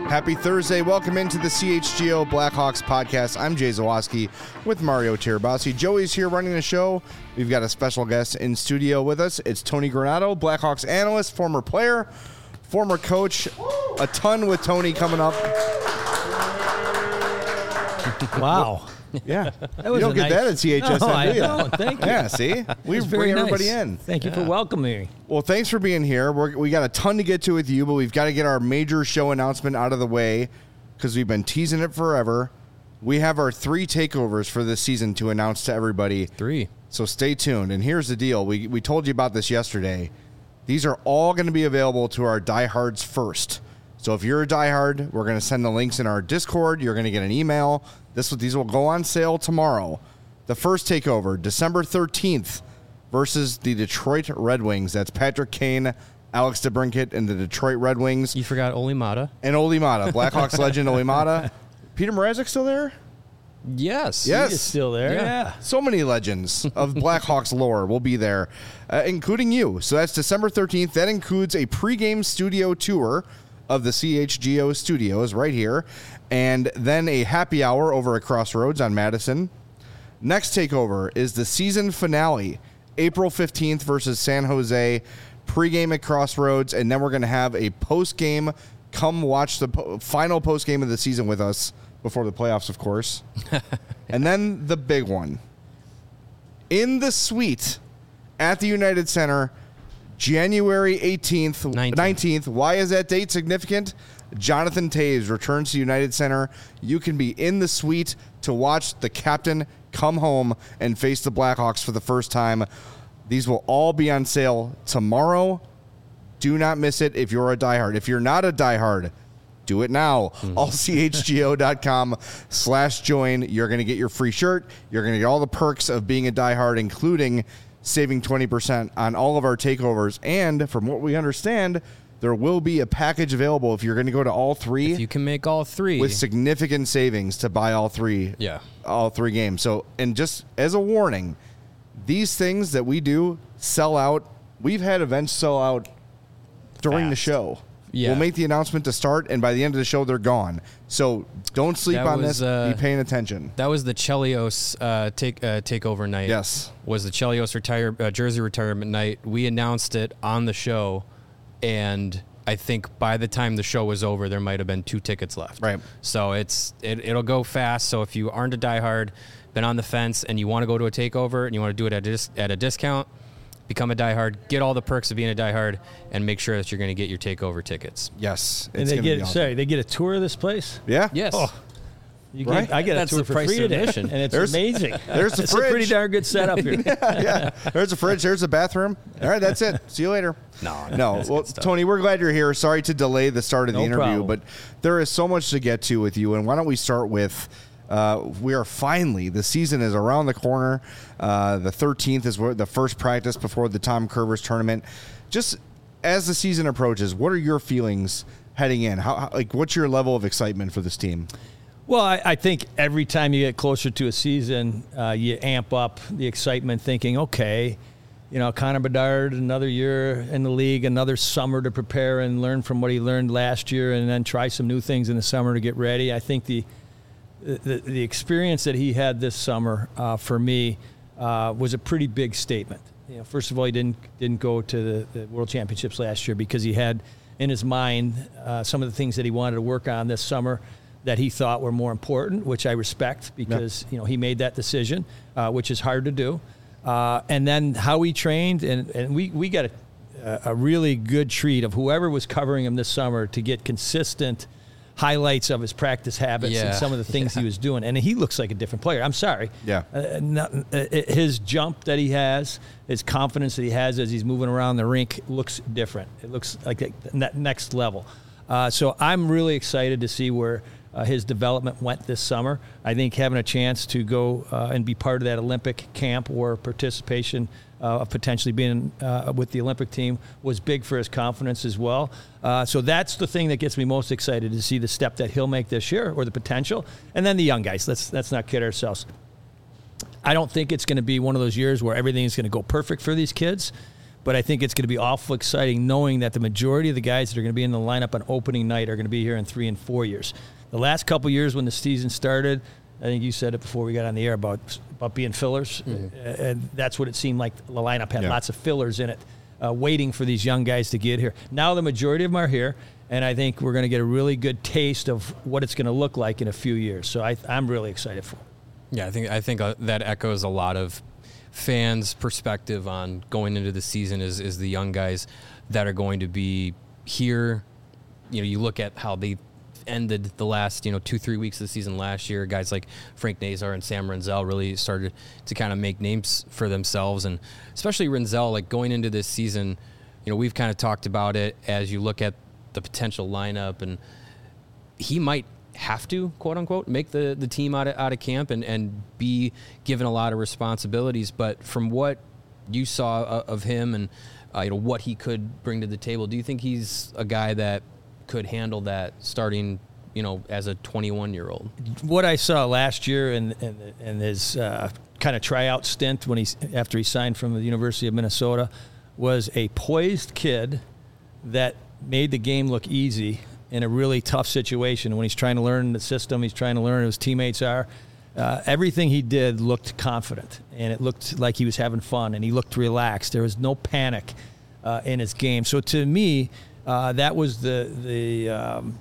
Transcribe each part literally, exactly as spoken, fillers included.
Happy Thursday. Welcome into the C H G O Blackhawks podcast. I'm Jay Zawaski with Mario Tirabassi. Joey's here running the show. We've got a special guest in studio with us. It's Tony Granato, Blackhawks analyst, former player, former coach. A ton with Tony coming up. Wow. Yeah. That was you don't get nice, that at C H S N, no, I do you? don't. Thank you. Yeah, see? We That's bring very everybody nice. in. Thank you Yeah. for welcoming me. Well, thanks for being here. We're, we got a ton to get to with you, but we've got to get our major show announcement out of the way because we've been teasing it forever. We have our three takeovers for this season to announce to everybody. Three. So stay tuned. And here's the deal. We, we told you about this yesterday. These are all going to be available to our diehards first. So if you're a diehard, we're going to send the links in our Discord. You're going to get an email. This These will go on sale tomorrow. The first takeover, December thirteenth, versus the Detroit Red Wings. That's Patrick Kane, Alex DeBrincat, and the Detroit Red Wings. You forgot Oli Mata. And Oli Mata, Blackhawks legend Oli Mata. Peter Mrazek still there? Yes. Yes. He's still there. Yeah. Yeah. So many legends of Blackhawks lore will be there, uh, including you. So that's December thirteenth. That includes a pregame studio tour of the C H G O studios right here, and then a happy hour over at Crossroads on Madison. Next takeover is the season finale, April fifteenth versus San Jose, pregame at Crossroads, and then we're going to have a postgame. Come watch the po- final postgame of the season with us before the playoffs, of course. And then the big one. In the suite at the United Center, January eighteenth, nineteenth. nineteenth. Why is that date significant? Jonathan Toews returns to United Center. You can be in the suite to watch the captain come home and face the Blackhawks for the first time. These will all be on sale tomorrow. Do not miss it if you're a diehard. If you're not a diehard, do it now. Mm. all c h g o dot com slash join. You're going to get your free shirt. You're going to get all the perks of being a diehard, including saving twenty percent on all of our takeovers. And from what we understand, there will be a package available if you're going to go to all three. If you can make all three. With significant savings to buy all three. Yeah. All three games. So, and just as a warning, these things that we do sell out. We've had events sell out during Fast. the show. Yeah. We'll make the announcement to start, and by the end of the show, they're gone. So don't sleep That on was, this. uh, Be paying attention. That was the Chelios uh, take uh, takeover night. Yes. Was the Chelios retire uh, jersey retirement night. We announced it on the show, and I think by the time the show was over, there might have been two tickets left. Right. So it's it, it'll go fast. So if you aren't a diehard, been on the fence, and you want to go to a takeover and you want to do it at a, dis- at a discount, become a diehard, get all the perks of being a diehard, and make sure that you're going to get your takeover tickets. Yes. And it's they gonna get be awesome. sorry, they get a tour of this place. Yeah. Yes. Oh, you Right? get, I get That's a tour the for price free of today, admission. and it's There's- amazing. there's the it's a pretty fridge. darn good setup here. yeah. There's a fridge. There's a bathroom. All right, that's it. See you later. No, No. that's Well, good stuff. Tony, we're glad you're here. Sorry to delay the start of the No interview, problem. but there is so much to get to with you. And why don't we start with uh, we are finally, the season is around the corner. Uh, the thirteenth is where the first practice before the Tom Curvers tournament. Just as the season approaches, what are your feelings heading in? How, how like what's your level of excitement for this team? Well, I, I think every time you get closer to a season, uh, you amp up the excitement thinking, okay, you know, Connor Bedard, another year in the league, another summer to prepare and learn from what he learned last year and then try some new things in the summer to get ready. I think the the, the experience that he had this summer uh, for me uh, was a pretty big statement. You know, first of all, he didn't didn't go to the, the World Championships last year because he had in his mind uh, some of the things that he wanted to work on this summer that he thought were more important, which I respect because, yep. you know, he made that decision, uh, which is hard to do. Uh, and then how he trained, and, and we, we got a, a really good treat of whoever was covering him this summer to get consistent highlights of his practice habits yeah. and some of the things yeah. he was doing. And he looks like a different player. I'm sorry. Yeah. Uh, not, uh, his jump that he has, his confidence that he has as he's moving around the rink looks different. It looks like that next level. Uh, so I'm really excited to see where uh, his development went this summer. I think having a chance to go uh, and be part of that Olympic camp or participation uh, of potentially being uh, with the Olympic team was big for his confidence as well. Uh, so that's the thing that gets me most excited to see the step that he'll make this year or the potential. And then the young guys. Let's let's not kid ourselves. I don't think it's going to be one of those years where everything is going to go perfect for these kids. but I think it's going to be awful exciting knowing that the majority of the guys that are going to be in the lineup on opening night are going to be here in three and four years. The last couple years when the season started, I think you said it before we got on the air about about being fillers, mm-hmm. and that's what it seemed like. The lineup had yeah. lots of fillers in it, uh, waiting for these young guys to get here. Now the majority of them are here, and I think we're going to get a really good taste of what it's going to look like in a few years. So I, I'm really excited for it. Yeah, I think I think uh, that echoes a lot of fans' perspective on going into the season is is the young guys that are going to be here. You know, you look at how they ended the last, you know, two, three weeks of the season last year. Guys like Frank Nazar and Sam Renzel really started to kind of make names for themselves. And especially Renzel, like going into this season, you know, we've kind of talked about it as you look at the potential lineup, and he might have to, quote unquote, make the, the team out of, out of camp and, and be given a lot of responsibilities. But from what you saw of him and, uh, you know, what he could bring to the table, do you think he's a guy that could handle that starting, you know, as a twenty-one-year-old? What I saw last year in, in, in his uh, kind of tryout stint when he after he signed from the University of Minnesota was a poised kid that made the game look easy in a really tough situation. When he's trying to learn the system, he's trying to learn who his teammates are. Uh, everything he did looked confident, and it looked like he was having fun, and he looked relaxed. There was no panic uh, in his game. So to me, Uh, that was the the um,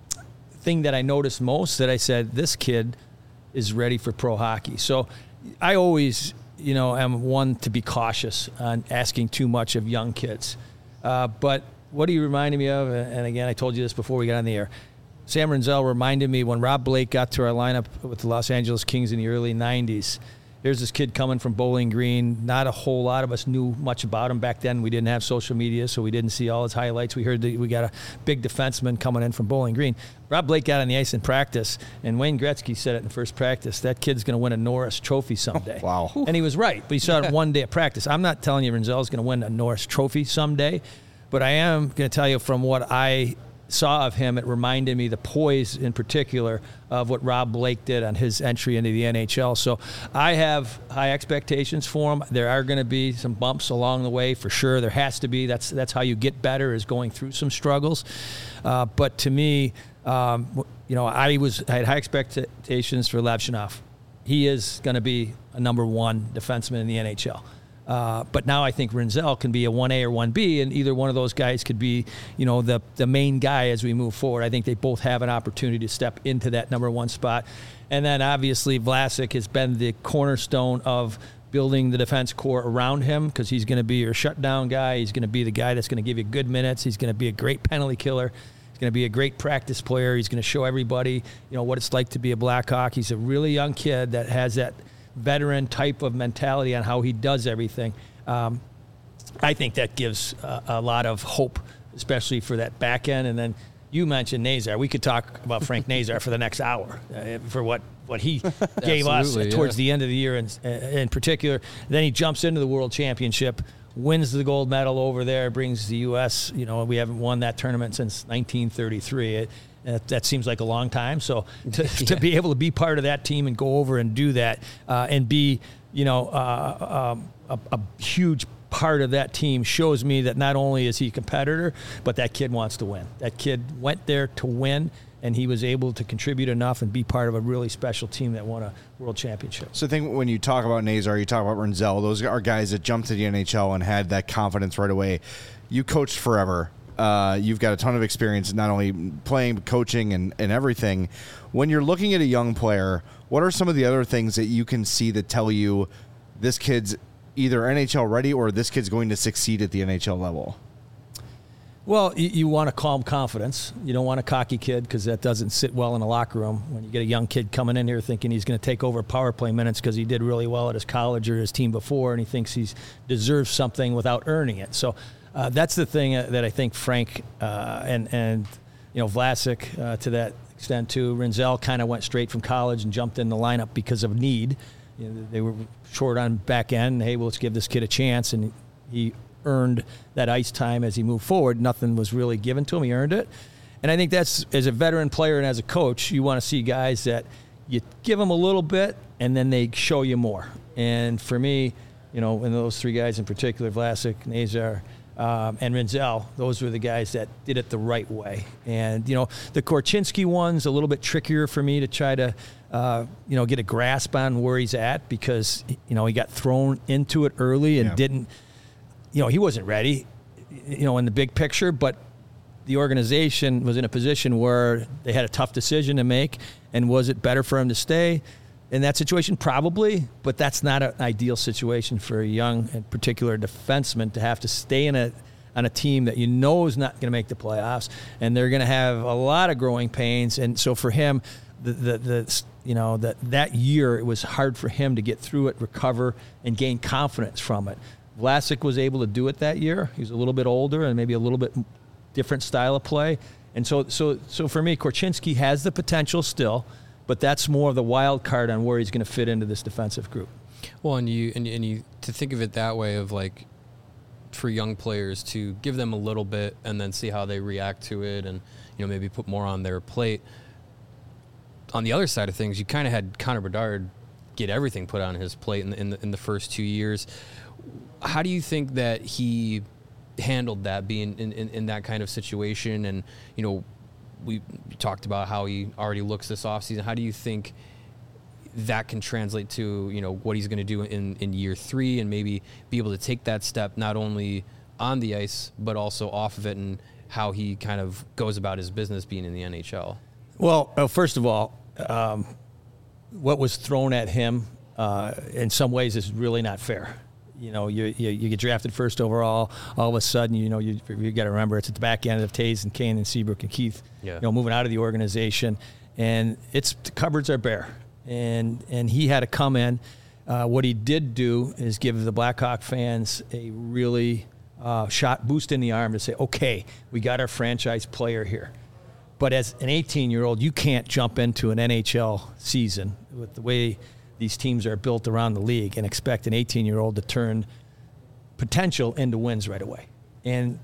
thing that I noticed most, that I said, this kid is ready for pro hockey. So I always, you know, am one to be cautious on asking too much of young kids. Uh, but what he reminded me of, and again, I told you this before we got on the air, Sam Renzel reminded me when Rob Blake got to our lineup with the Los Angeles Kings in the early nineties. Here's this kid coming from Bowling Green. Not a whole lot of us knew much about him back then. We didn't have social media, so we didn't see all his highlights. We heard that we got a big defenseman coming in from Bowling Green. Rob Blake got on the ice in practice, and Wayne Gretzky said it in the first practice, that kid's going to win a Norris Trophy someday. Oh, wow. And he was right, but he saw it one day of practice. I'm not telling you Renzel's going to win a Norris Trophy someday, but I am going to tell you from what I saw of him, it reminded me, the poise in particular, of what Rob Blake did on his entry into the N H L. So I have high expectations for him. There are going to be some bumps along the way, for sure. There has to be. That's that's how you get better, is going through some struggles. Uh, but to me, um, you know, I was I had high expectations for Levshunov. He is going to be a number one defenseman in the N H L. Uh, but now I think Renzel can be a one A or one B, and either one of those guys could be, you know, the the main guy as we move forward. I think they both have an opportunity to step into that number one spot. And then obviously Vlasic has been the cornerstone of building the defense core around him, because he's going to be your shutdown guy. He's going to be the guy that's going to give you good minutes. He's going to be a great penalty killer. He's going to be a great practice player. He's going to show everybody, you know, what it's like to be a Blackhawk. He's a really young kid that has that veteran type of mentality on how he does everything. Um, I think that gives a, a lot of hope, especially for that back end. And then you mentioned Nazar. We could talk about Frank Nazar for the next hour uh, for what, what he gave us towards yeah. the end of the year in, in particular. Then he jumps into the World Championship, wins the gold medal over there, brings the U S, you know, we haven't won that tournament since nineteen thirty-three. It, Uh, that seems like a long time. So to, yeah. to be able to be part of that team and go over and do that uh, and be, you know, uh, um, a, a huge part of that team shows me that not only is he a competitor, but that kid wants to win. That kid went there to win, and he was able to contribute enough and be part of a really special team that won a world championship. So I think when you talk about Nazar, you talk about Renzel, those are guys that jumped to the N H L and had that confidence right away. You coached forever. Uh, you've got a ton of experience, not only playing, but coaching and, and everything. When you're looking at a young player, what are some of the other things that you can see that tell you this kid's either N H L ready or this kid's going to succeed at the N H L level? Well, you, you want a calm confidence. You don't want a cocky kid, because that doesn't sit well in a locker room. When you get a young kid coming in here thinking he's going to take over power play minutes because he did really well at his college or his team before, and he thinks he deserves something without earning it. So Uh, that's the thing that I think Frank uh, and, and you know, Vlasic uh, to that extent too. Renzel kind of went straight from college and jumped in the lineup because of need. You know, they were short on back end. Hey, well, let's give this kid a chance. And he earned that ice time as he moved forward. Nothing was really given to him. He earned it. And I think that's, as a veteran player and as a coach, you want to see guys that you give them a little bit and then they show you more. And for me, You know, and those three guys in particular, Vlasic, Nazar, um, and Renzel, those were the guys that did it the right way. And, you know, the Korchinski one's a little bit trickier for me to try to, uh, you know, get a grasp on where he's at because, you know, he got thrown into it early and yeah. didn't, you know, he wasn't ready, you know, in the big picture, but the organization was in a position where they had a tough decision to make. And was it better for him to stay in that situation? Probably, but that's not an ideal situation for a young and particular defenseman to have to stay in a on a team that you know is not going to make the playoffs, and they're going to have a lot of growing pains. And so for him, the the, the you know that that year it was hard for him to get through it, recover, and gain confidence from it. Vlasic was able to do it that year. He was a little bit older and maybe a little bit different style of play. And so so so for me, Korchinski has the potential still. But that's more of the wild card on where he's going to fit into this defensive group. Well, and you and, and you to think of it that way of like for young players to give them a little bit and then see how they react to it, and you know maybe put more on their plate. On the other side of things, you kind of had Connor Bedard get everything put on his plate in the, in the in the first two years. How do you think that he handled that, being in, in, in that kind of situation? And you know. We talked about how he already looks this offseason. How do you think that can translate to, you know, what he's going to do in, in year three and maybe be able to take that step not only on the ice but also off of it, and how he kind of goes about his business being in the N H L? Well, uh, first of all, um, what was thrown at him uh, in some ways is really not fair. You know, you, you you get drafted first overall. All of a sudden, you know, you you got to remember it's at the back end of Taves and Kane and Seabrook and Keith. Yeah. You know, moving out of the organization, and it's the cupboards are bare, and and he had to come in. Uh, what he did do is give the Blackhawk fans a really uh, shot boost in the arm to say, okay, we got our franchise player here. But as an eighteen-year-old, you can't jump into an N H L season with the way these teams are built around the league and expect an eighteen-year-old to turn potential into wins right away. And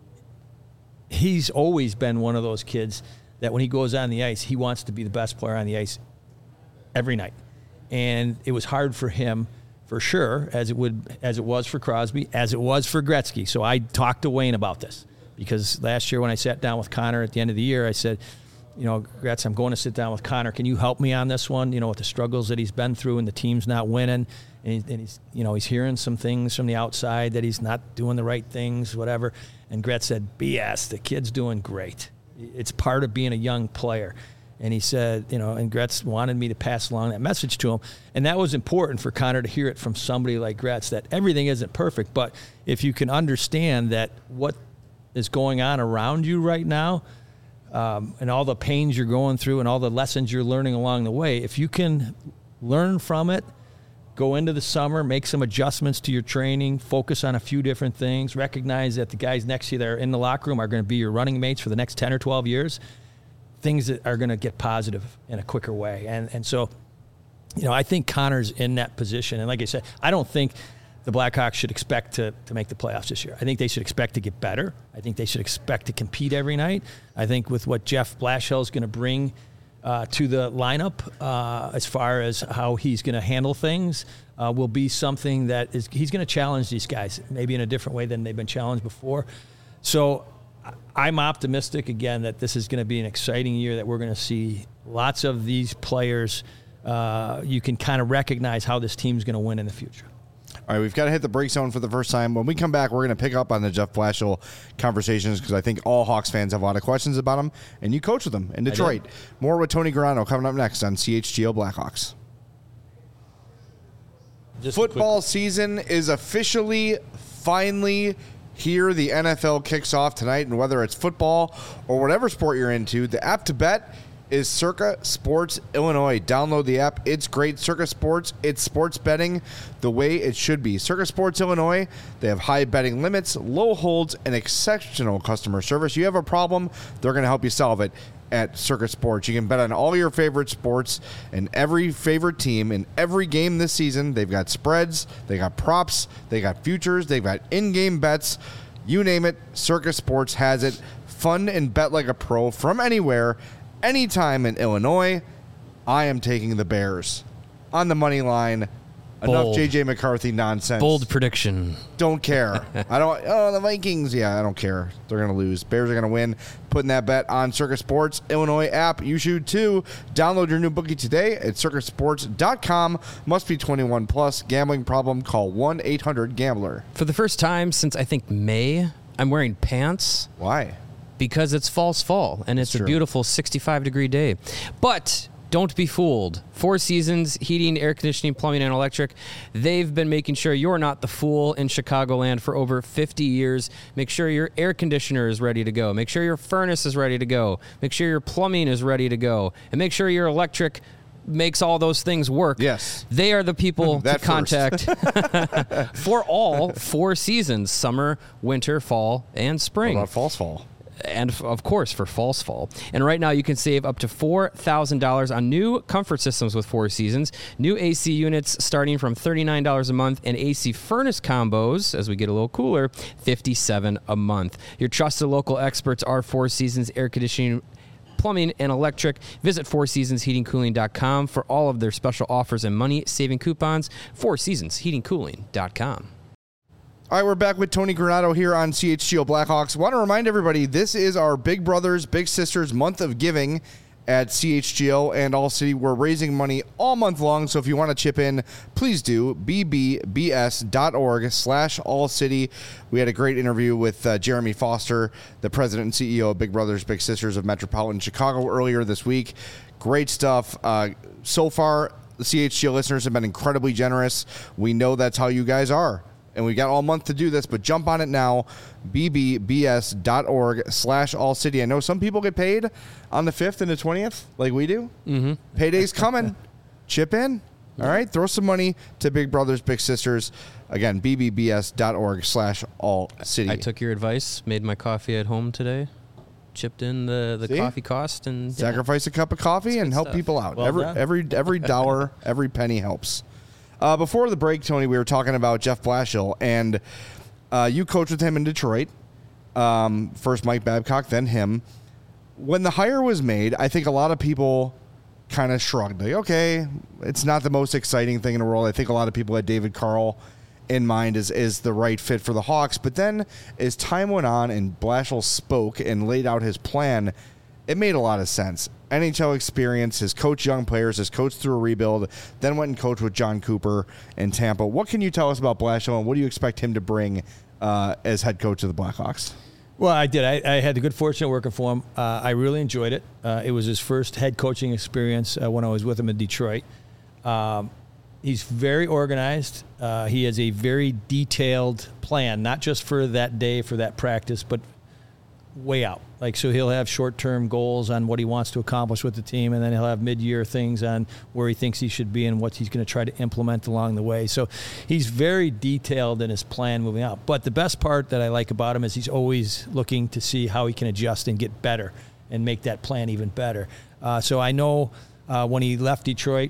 he's always been one of those kids that when he goes on the ice, he wants to be the best player on the ice every night. And it was hard for him, for sure, as it would, as it was for Crosby, as it was for Gretzky. So I talked to Wayne about this because last year when I sat down with Connor at the end of the year, I said, you know, Gretz, I'm going to sit down with Connor. Can you help me on this one? You know, with the struggles that he's been through and the team's not winning, and, he, and he's, you know, he's hearing some things from the outside that he's not doing the right things, whatever. And Gretz said, B S, the kid's doing great. It's part of being a young player. And he said, you know, and Gretz wanted me to pass along that message to him. And that was important for Connor to hear it from somebody like Gretz, that everything isn't perfect, but if you can understand that what is going on around you right now, Um, and all the pains you're going through and all the lessons you're learning along the way, if you can learn from it, go into the summer, make some adjustments to your training, focus on a few different things, recognize that the guys next to you that are in the locker room are going to be your running mates for the next ten or twelve years, things that are going to get positive in a quicker way. And and so, you know, I think Connor's in that position. And like I said, I don't think the Blackhawks should expect to, to make the playoffs this year. I think they should expect to get better. I think they should expect to compete every night. I think with what Jeff Blashill is going to bring uh, to the lineup uh, as far as how he's going to handle things uh, will be something that is he's going to challenge these guys maybe in a different way than they've been challenged before. So I'm optimistic, again, that this is going to be an exciting year, that we're going to see lots of these players. Uh, you can kind of recognize how this team's going to win in the future. All right, we've got to hit the break zone for the first time. When we come back, we're going to pick up on the Jeff Blashill conversations because I think all Hawks fans have a lot of questions about him, and you coach with him in Detroit. More with Tony Grano coming up next on C H G O Blackhawks. Just Football season is officially, finally here. The N F L kicks off tonight, and whether it's football or whatever sport you're into, the app to bet is Circa Sports Illinois. Download the app. It's great. Circa Sports, it's sports betting the way it should be. Circa Sports Illinois, they have high betting limits, low holds, and exceptional customer service. You have a problem, they're going to help you solve it at Circa Sports. You can bet on all your favorite sports and every favorite team in every game this season. They've got spreads, they got props, they got futures, they've got in-game bets. You name it, Circa Sports has it. Fun and bet like a pro from anywhere, anytime in Illinois. I am taking the Bears on the money line enough Bold. J J McCarthy nonsense. Bold prediction. Don't care. I don't. Oh, the Vikings. Yeah, I don't care. They're gonna lose. Bears are gonna win. Putting that bet on Circus Sports Illinois app. You should too. Download your new bookie today at circus sports dot com. Must be twenty-one plus. Gambling problem? Call one eight hundred gambler. For the first time since I think May, I'm wearing pants. Why? Because it's false fall and it's That's a true. beautiful sixty-five degree day. But don't be fooled. Four Seasons Heating, Air Conditioning, Plumbing, and Electric. They've been making sure you're not the fool in Chicagoland for over fifty years. Make sure your air conditioner is ready to go. Make sure your furnace is ready to go. Make sure your plumbing is ready to go. And make sure your electric makes all those things work. Yes. They are the people to That first. contact for all four seasons, summer, winter, fall, and What spring. about false fall? And f- of course for false fall. And right now you can save up to four thousand dollars on new comfort systems with Four Seasons. New A C units starting from thirty-nine dollars a month, and A C furnace combos, as we get a little cooler, fifty-seven dollars a month. Your trusted local experts are Four Seasons Air Conditioning, Plumbing, and Electric. Visit four seasons heating cooling dot com for all of their special offers and money-saving coupons. four seasons heating cooling dot com. All right, we're back with Tony Granato here on C H G O Blackhawks. Want to remind everybody, this is our Big Brothers Big Sisters month of giving at C H G O and All City. We're raising money all month long, so if you want to chip in, please do. b b b s dot org slash All City. We had a great interview with uh, Jeremy Foster, the president and C E O of Big Brothers Big Sisters of Metropolitan Chicago earlier this week. Great stuff. Uh, so far, the C H G O listeners have been incredibly generous. We know that's how you guys are. And we got all month to do this, but jump on it now, b b b s dot org slash all city. I know some people get paid on the fifth and the twentieth, like we do. Mm-hmm. Payday's coming. Chip in. All right, throw some money to Big Brothers Big Sisters. Again, b b b s dot org slash all city. I took your advice, made my coffee at home today, chipped in the, the See? coffee cost, and yeah. Sacrifice a cup of coffee and good help stuff. people out. Well every done. every every dollar, every penny helps. Uh, before the break, Tony, we were talking about Jeff Blashill, and uh, you coached with him in Detroit. Um, first Mike Babcock, then him. When the hire was made, I think a lot of people kind of shrugged. Like, okay, it's not the most exciting thing in the world. I think a lot of people had David Carl in mind as, as the right fit for the Hawks. But then as time went on and Blashill spoke and laid out his plan, it made a lot of sense. N H L experience, has coached young players, has coached through a rebuild, then went and coached with John Cooper in Tampa. What can you tell us about Blashill, and what do you expect him to bring uh, as head coach of the Blackhawks? Well, I did. I, I had the good fortune of working for him. Uh, I really enjoyed it. Uh, it was his first head coaching experience uh, when I was with him in Detroit. Um, he's very organized. Uh, he has a very detailed plan, not just for that day, for that practice, but way out. Like, so he'll have short-term goals on what he wants to accomplish with the team, and then he'll have mid-year things on where he thinks he should be and what he's going to try to implement along the way. So he's very detailed in his plan moving out. But the best part that I like about him is he's always looking to see how he can adjust and get better and make that plan even better. Uh, so I know uh, when he left Detroit,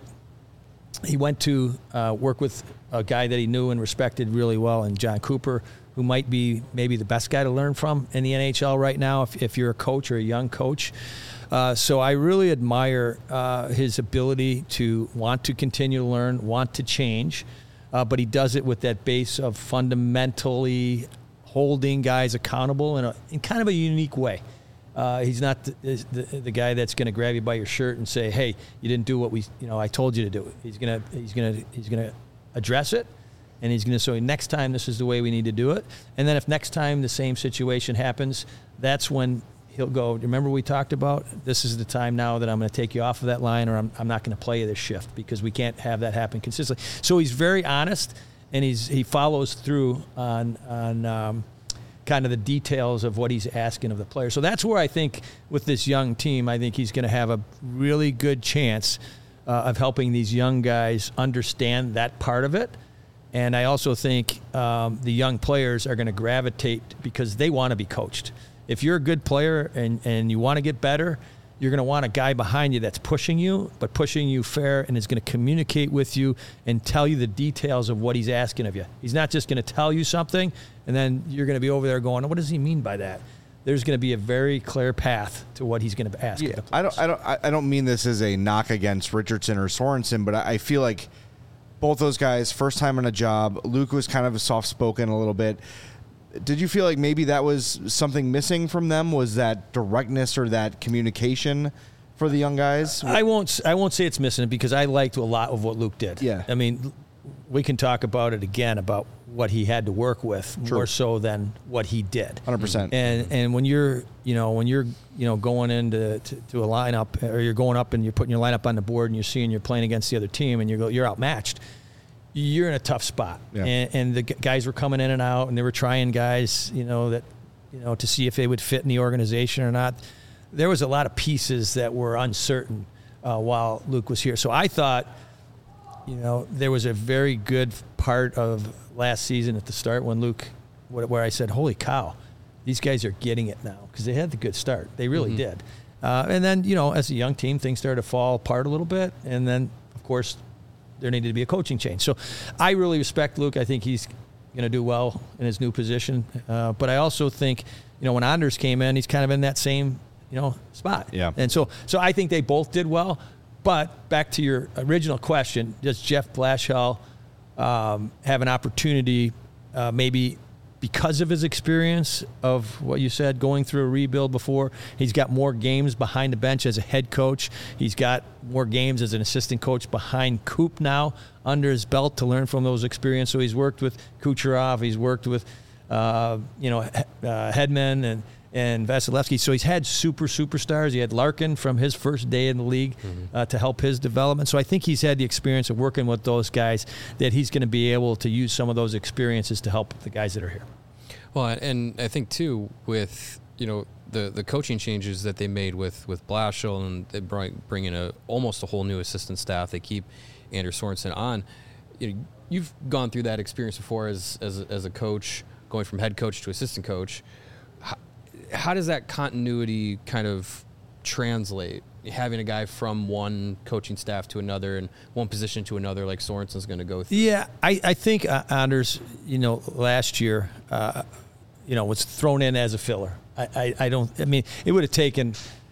he went to uh, work with a guy that he knew and respected really well, and John Cooper, who might be maybe the best guy to learn from in the N H L right now if, if you're a coach or a young coach. Uh, so I really admire uh, his ability to want to continue to learn, want to change, uh, but he does it with that base of fundamentally holding guys accountable in, a, in kind of a unique way. Uh, he's not the, the, the guy that's going to grab you by your shirt and say, "Hey, you didn't do what we, you know, I told you to do." He's gonna, he's gonna, he's gonna address it. And he's going to say, next time, this is the way we need to do it. And then if next time the same situation happens, that's when he'll go, remember we talked about, this is the time now that I'm going to take you off of that line, or I'm, I'm not going to play you this shift, because we can't have that happen consistently. So he's very honest, and he's he follows through on, on um, kind of the details of what he's asking of the player. So that's where I think with this young team, I think he's going to have a really good chance uh, of helping these young guys understand that part of it. And I also think um, the young players are going to gravitate because they want to be coached. If you're a good player and, and you want to get better, you're going to want a guy behind you that's pushing you, but pushing you fair, and is going to communicate with you and tell you the details of what he's asking of you. He's not just going to tell you something, and then you're going to be over there going, what does he mean by that? There's going to be a very clear path to what he's going to ask. Yeah, I don't, I don't, I don't mean this as a knock against Richardson or Sorensen, but I, I feel like both those guys, first time on a job. Luke was kind of soft-spoken a little bit. Did you feel like maybe that was something missing from them? Was that directness or that communication for the young guys? I won't I won't say it's missing because I liked a lot of what Luke did. Yeah. I mean, we can talk about it again about what he had to work with True. more so than what he did. one hundred percent. And and when you're, you know, when you're, you know, going into to, to a lineup or you're going up and you're putting your lineup on the board and you're seeing you're playing against the other team and you're you're outmatched, you're in a tough spot. Yeah. And, and the guys were coming in and out and they were trying guys, you know, that, you know, to see if they would fit in the organization or not. There was a lot of pieces that were uncertain uh, while Luke was here. So I thought, you know, there was a very good part of last season at the start when Luke, where I said, holy cow, these guys are getting it now because they had the good start. They really mm-hmm. did. Uh, and then, you know, as a young team, things started to fall apart a little bit. And then, of course, there needed to be a coaching change. So I really respect Luke. I think he's going to do well in his new position. Uh, but I also think, you know, when Anders came in, he's kind of in that same, you know, spot. Yeah. And so, so I think they both did well. But back to your original question, does Jeff Blashill um, have an opportunity, uh, maybe because of his experience of what you said, going through a rebuild before? He's got more games behind the bench as a head coach. He's got more games as an assistant coach behind Coop now under his belt to learn from those experiences. So he's worked with Kucherov. He's worked with, uh, you know, uh, Hedman and and Vasilevsky. So he's had super superstars. He had Larkin from his first day in the league mm-hmm. uh, to help his development. So I think he's had the experience of working with those guys that he's going to be able to use some of those experiences to help the guys that are here. Well, and I think, too, with, you know, the, the coaching changes that they made with, with Blashill, and they bring, bring in a, almost a whole new assistant staff. They keep Anders Sorensen on. You know, you've gone through that experience before as, as, a, as a coach, going from head coach to assistant coach. How, how does that continuity kind of translate? Having a guy from one coaching staff to another and one position to another like Sorensen's going to go through? Yeah, I, I think uh, Anders, you know, last year, uh, you know, was thrown in as a filler. I, I, I don't, I mean, it would have taken,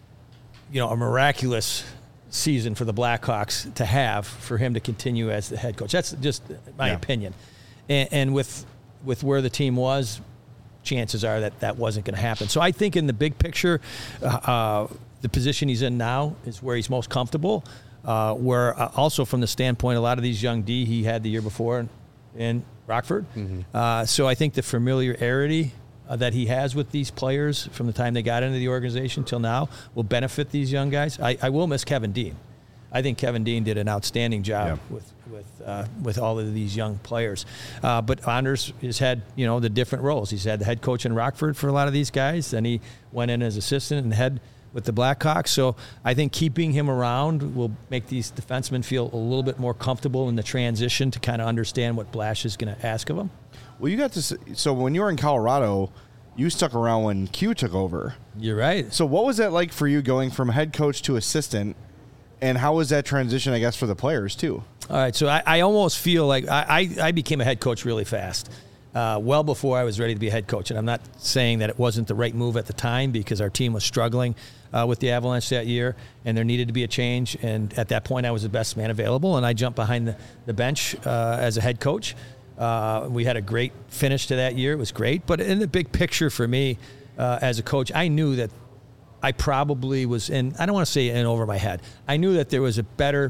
you know, a miraculous season for the Blackhawks to have for him to continue as the head coach. That's just my yeah. opinion. And, and with with where the team was, chances are that that wasn't going to happen. So I think in the big picture, uh, uh, the position he's in now is where he's most comfortable. Uh, where uh, also from the standpoint, a lot of these young D he had the year before in, in Rockford. Mm-hmm. Uh, so I think the familiarity uh, that he has with these players from the time they got into the organization till now will benefit these young guys. I, I will miss Kevin Dean. I think Kevin Dean did an outstanding job yeah. with with uh, with all of these young players. Uh, but Anders has had, you know, the different roles. He's had the head coach in Rockford for a lot of these guys. Then he went in as assistant and head with the Blackhawks. So I think keeping him around will make these defensemen feel a little bit more comfortable in the transition to kind of understand what Blash is going to ask of them. Well, you got to – so when you were in Colorado, you stuck around when Q took over. You're right. So what was that like for you going from head coach to assistant, and how was that transition, I guess, for the players too? All right, so I, I almost feel like I, I, I became a head coach really fast. Uh, well before I was ready to be a head coach. And I'm not saying that it wasn't the right move at the time because our team was struggling uh, with the Avalanche that year and there needed to be a change. And at that point, I was the best man available, and I jumped behind the, the bench uh, as a head coach. Uh, we had a great finish to that year. It was great. But in the big picture for me uh, as a coach, I knew that I probably was in, I don't want to say in over my head. I knew that there was a better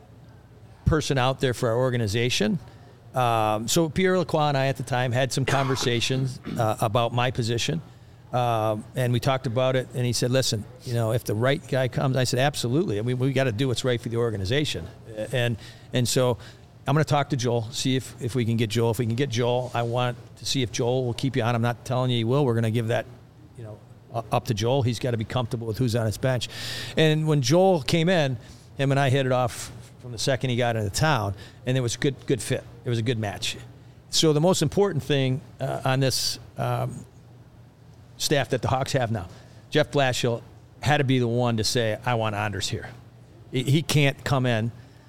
person out there for our organization. Um, so Pierre Lacroix and I at the time had some conversations uh, about my position, uh, and we talked about it. And he said, "Listen, you know, if the right guy comes," I said, "Absolutely. I mean, we got to do what's right for the organization." And and so I'm going to talk to Joel, see if, if we can get Joel. If we can get Joel, I want to see if Joel will keep you on. I'm not telling you he will. We're going to give that, you know, up to Joel. He's got to be comfortable with who's on his bench. And when Joel came in, him and I hit it off from the second he got into town, and it was a good good fit. It was a good match. So the most important thing uh, on this um, staff that the Hawks have now, Jeff Blashill had to be the one to say, I want Anders here. He, he can't come in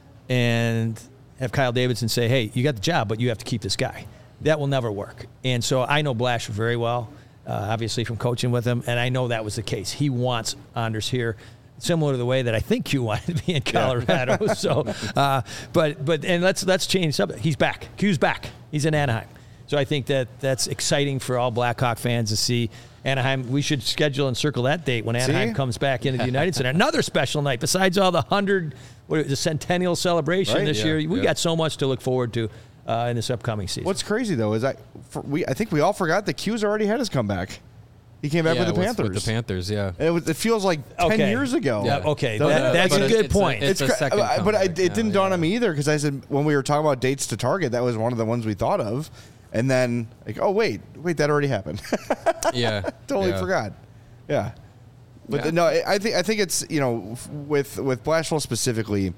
and have Kyle Davidson say, hey, you got the job, but you have to keep this guy. That will never work. And so I know Blash very well, uh, obviously from coaching with him, and I know that was the case. He wants Anders here. similar to the way that I think Q wanted to be in Colorado. Yeah. so, uh, but but and let's let's change something. He's back. Q's back. He's in Anaheim. So I think that that's exciting for all Blackhawk fans to see Anaheim. We should schedule and circle that date when Anaheim see? comes back into the United Center. Another special night besides all the hundred, what is it, the centennial celebration right? this yeah, year. We yeah. got so much to look forward to uh, in this upcoming season. What's crazy though is I for, we I think we all forgot that Q's already had his comeback. He came back yeah, with the Panthers. With the Panthers, yeah. It, was, it feels like ten okay. years ago. Yeah. Okay, that, uh, that's a good it's point. A, it's it's a second cra- but I, it now, didn't yeah. dawn on me either because I said when we were talking about dates to target, that was one of the ones we thought of, and then like, oh wait, wait, that already happened. yeah, totally yeah. forgot. Yeah, but yeah. The, no, I think I think it's you know with with Blashill specifically.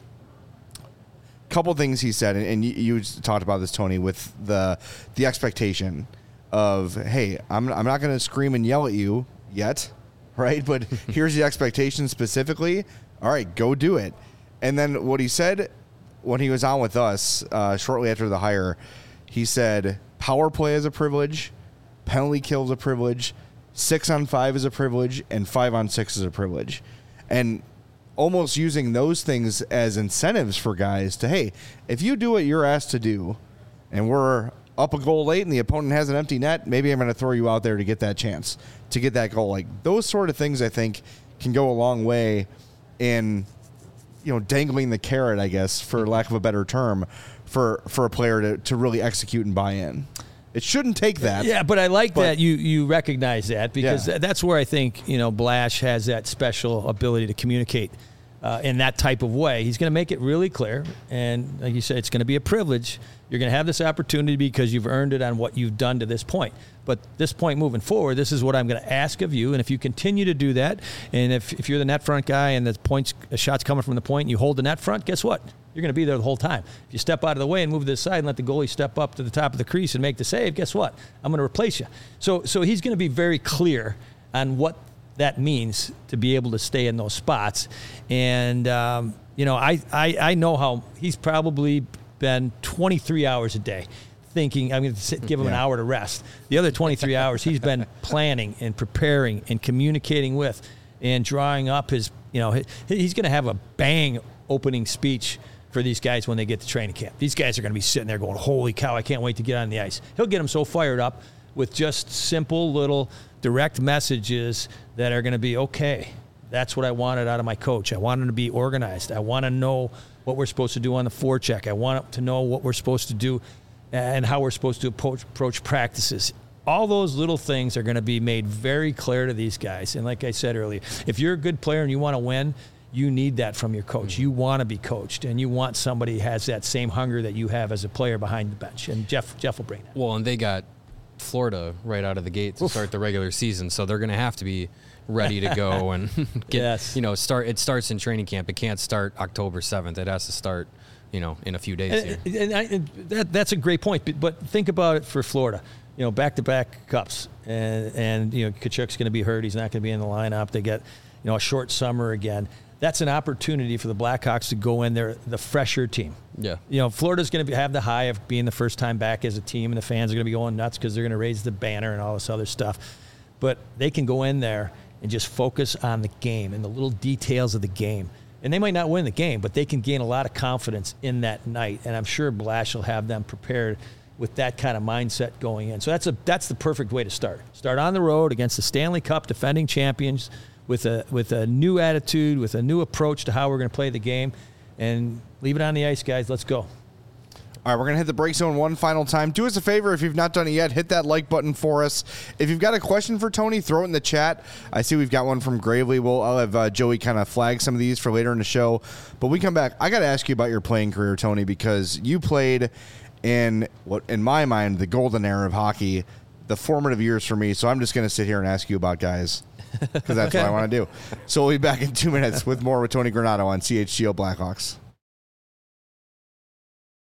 Couple things he said, and, and you, you talked about this, Tony, with the the expectation of hey, I'm I'm not going to scream and yell at you yet, right? But here's the expectation specifically. All right, go do it. And then what he said when he was on with us uh, shortly after the hire, he said power play is a privilege, penalty kill is a privilege, six on five is a privilege, and five on six is a privilege. And almost using those things as incentives for guys to, hey, if you do what you're asked to do and we're up a goal late and the opponent has an empty net, maybe I'm going to throw you out there to get that chance, to get that goal. Like those sort of things I think can go a long way in, you know, dangling the carrot, I guess, for lack of a better term, for, for a player to, to really execute and buy in. It shouldn't take that. Yeah, but I like but, that you you recognize that because yeah. that's where I think, you know, Blash has that special ability to communicate uh, in that type of way. He's going to make it really clear. And like you said, it's going to be a privilege. You're going to have this opportunity because you've earned it on what you've done to this point. But this point moving forward, this is what I'm going to ask of you. And if you continue to do that, and if, if you're the net front guy and the points, a shot's coming from the point and you hold the net front, guess what? You're going to be there the whole time. If you step out of the way and move to the side and let the goalie step up to the top of the crease and make the save, guess what? I'm going to replace you. So, so he's going to be very clear on what that means to be able to stay in those spots. And, um, you know, I, I, I know how he's probably been twenty-three hours a day thinking, I'm going to sit, give him yeah. an hour to rest. The other twenty-three hours he's been planning and preparing and communicating with and drawing up his, you know, he's going to have a bang opening speech for these guys when they get to training camp. These guys are going to be sitting there going, holy cow, I can't wait to get on the ice. He'll get them so fired up with just simple little direct messages that are going to be, okay, that's what I wanted out of my coach. I want him to be organized. I want to know what we're supposed to do on the forecheck. I want to know what we're supposed to do and how we're supposed to approach, approach practices. All those little things are going to be made very clear to these guys. And like I said earlier, if you're a good player and you want to win, you need that from your coach. You want to be coached, and you want somebody who has that same hunger that you have as a player behind the bench. And Jeff Jeff will bring that. Well, and they got Florida right out of the gate to Oof. start the regular season, so they're going to have to be ready to go and get, yes. you know, start. It starts in training camp. It can't start October seventh. It has to start, you know, in a few days and, here. And, I, and that that's a great point. But, but think about it for Florida. You know, back-to-back cups, and and you know, Kachuk's going to be hurt. He's not going to be in the lineup. They get, you know, a short summer again. That's an opportunity for the Blackhawks to go in there, the fresher team. Yeah. You know, Florida's going to have the high of being the first time back as a team, and the fans are going to be going nuts because they're going to raise the banner and all this other stuff. But they can go in there and just focus on the game and the little details of the game. And they might not win the game, but they can gain a lot of confidence in that night. And I'm sure Blash will have them prepared with that kind of mindset going in. So that's a that's the perfect way to start. Start on the road against the Stanley Cup defending champions, with a with a new attitude, with a new approach to how we're going to play the game, and leave it on the ice, guys. Let's go. All right, we're going to hit the break zone one final time. Do us a favor, if you've not done it yet, hit that like button for us. If you've got a question for Tony, throw it in the chat. I see we've got one from Gravely. We'll, I'll have uh, Joey kind of flag some of these for later in the show. But we come back. I got to ask you about your playing career, Tony, because you played in, what in my mind, the golden era of hockey, the formative years for me. So I'm just going to sit here and ask you about guys. Because that's okay. what I want to do. So we'll be back in two minutes with more with Tony Granato on C H G O Blackhawks.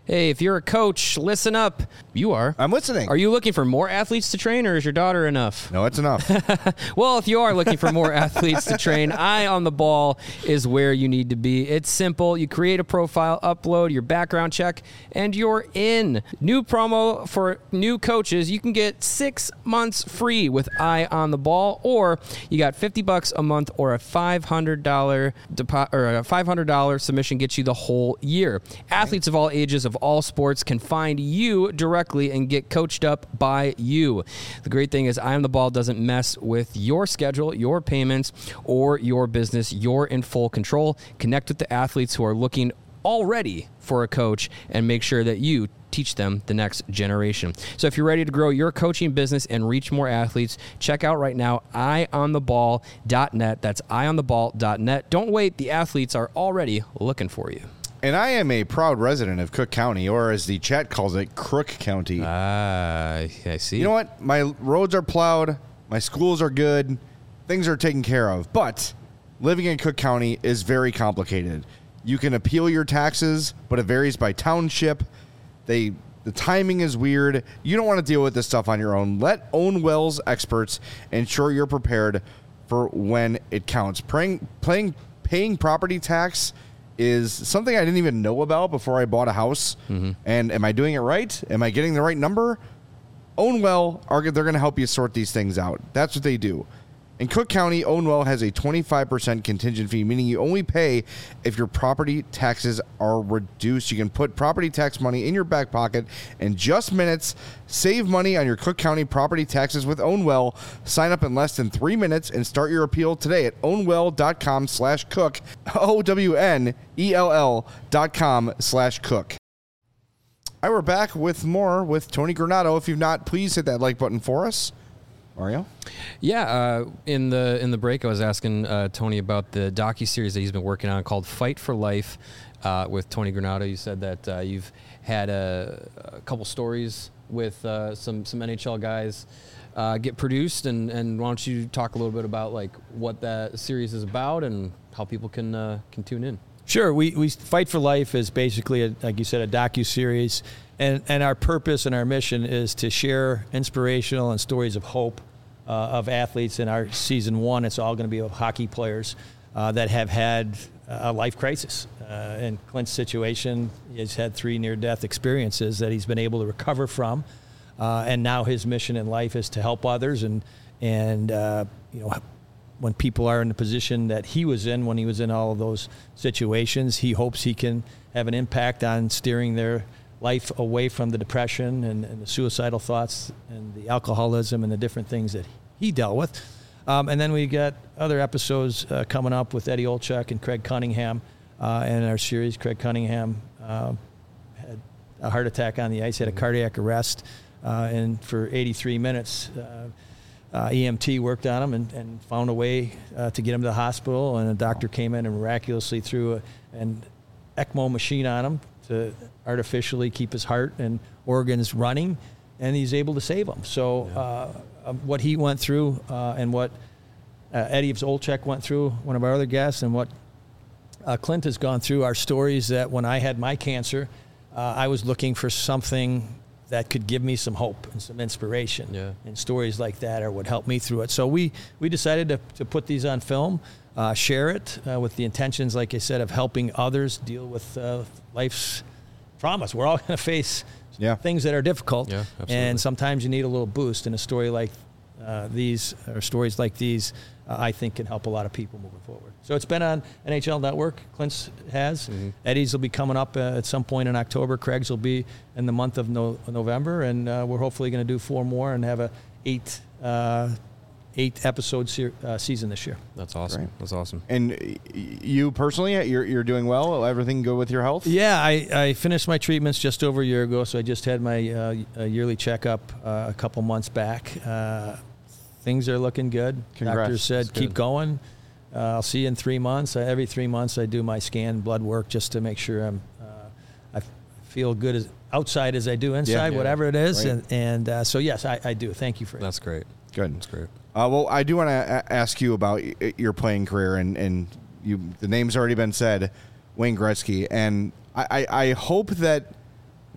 Hey, if you're a coach, listen up. You are. I'm listening. Are you looking for more athletes to train, or is your daughter enough? No, it's enough. Well, if you are looking for more athletes to train, Eye on the Ball is where you need to be. It's simple. You create a profile, upload your background check, and you're in. New promo for new coaches. You can get six months free with Eye on the Ball, or you got fifty bucks a month, or a five hundred dollars depo- or a five hundred dollars submission gets you the whole year. Athletes of all ages, of all sports, can find you directly and get coached up by you. The great thing is Eye on the Ball doesn't mess with your schedule, your payments, or your business. You're in full control. Connect with the athletes who are looking already for a coach and make sure that you teach them the next generation. So if you're ready to grow your coaching business and reach more athletes, check out right now eye on the ball dot net. That's eye on the ball dot net. Don't wait. The athletes are already looking for you. And I am a proud resident of Cook County, or as the chat calls it, Crook County. Ah, uh, I see. You know what? My roads are plowed. My schools are good. Things are taken care of. But living in Cook County is very complicated. You can appeal your taxes, but it varies by township. They the timing is weird. You don't want to deal with this stuff on your own. Let Own Wells experts ensure you're prepared for when it counts. Paying, paying, paying property tax is something I didn't even know about before I bought a house. Mm-hmm. And am I doing it right? Am I getting the right number? Own Well, are they're going to help you sort these things out. That's what they do. In Cook County, Own Well has a twenty-five percent contingent fee, meaning you only pay if your property taxes are reduced. You can put property tax money in your back pocket in just minutes. Save money on your Cook County property taxes with Own Well. Sign up in less than three minutes and start your appeal today at ownwell dot com slash cook. O W N E L L dot com slash cook. All right, we're back with more with Tony Granato. If you've not, please hit that like button for us. Mario? Yeah, uh, in the in the break, I was asking uh, Tony about the docuseries that he's been working on called Fight for Life uh, with Tony Granato. You said that uh, you've had a, a couple stories with uh, some some N H L guys uh, get produced, and, and why don't you talk a little bit about like what that series is about and how people can uh, can tune in? Sure. We we Fight for Life is basically, a, like you said, a docuseries, and and our purpose and our mission is to share inspirational and stories of hope Uh, of athletes. In our season one, it's all going to be of hockey players uh, that have had a life crisis. Uh, in Clint's situation, he's had three near-death experiences that he's been able to recover from, uh, and now his mission in life is to help others. And and uh, you know, when people are in the position that he was in when he was in all of those situations, he hopes he can have an impact on steering their life away from the depression and, and the suicidal thoughts and the alcoholism and the different things that he dealt with. Um, and then we got other episodes uh, coming up with Eddie Olczyk and Craig Cunningham uh, in our series. Craig Cunningham uh, had a heart attack on the ice, had a cardiac arrest, uh, and for eighty-three minutes, uh, uh, E M T worked on him and, and found a way uh, to get him to the hospital, and a doctor came in and miraculously threw a, an ECMO machine on him to artificially keep his heart and organs running, and he's able to save him. So uh, what he went through uh, and what uh, Eddie Olczyk went through, one of our other guests, and what uh, Clint has gone through are stories that when I had my cancer, uh, I was looking for something that could give me some hope and some inspiration. Yeah. And stories like that are what helped me through it. So we, we decided to, to put these on film, uh, share it uh, with the intentions, like I said, of helping others deal with uh, life's traumas. We're all going to face yeah. things that are difficult. Yeah, absolutely. And sometimes you need a little boost. And a story like uh, these, or stories like these, uh, I think can help a lot of people moving forward. So it's been on N H L Network. Clint's has. Mm-hmm. Eddie's will be coming up uh, at some point in October. Craig's will be in the month of no- November. And uh, we're hopefully going to do four more and have a eight uh, eight episode se- uh, season this year. That's awesome. Great. That's awesome. And you personally, you're you're doing well? Everything good with your health? Yeah, I, I finished my treatments just over a year ago, so I just had my uh, yearly checkup uh, a couple months back. Uh, things are looking good. Congrats. Doctor said, That's keep good. going. Uh, I'll see you in three months. Uh, every three months I do my scan blood work just to make sure I'm, uh, I f- feel good as outside as I do inside, Yeah. whatever it is. Right. And, and uh, so, yes, I, I do. Thank you for That's great. Good. That's great. Uh, well, I do want to a- ask you about y- your playing career, and, and you the name's already been said, Wayne Gretzky, and I, I, I hope that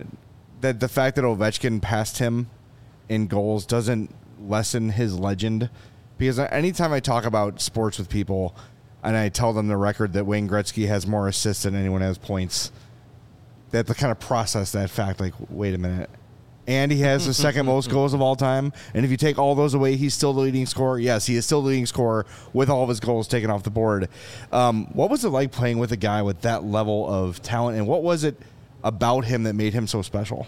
that the fact that Ovechkin passed him in goals doesn't lessen his legend. Because anytime I talk about sports with people and I tell them the record that Wayne Gretzky has more assists than anyone has points, they have to kind of process that fact. Like, wait a minute. And he has the second most goals of all time. And if you take all those away, he's still the leading scorer. Yes, he is still the leading scorer with all of his goals taken off the board. Um, what was it like playing with a guy with that level of talent? And what was it about him that made him so special?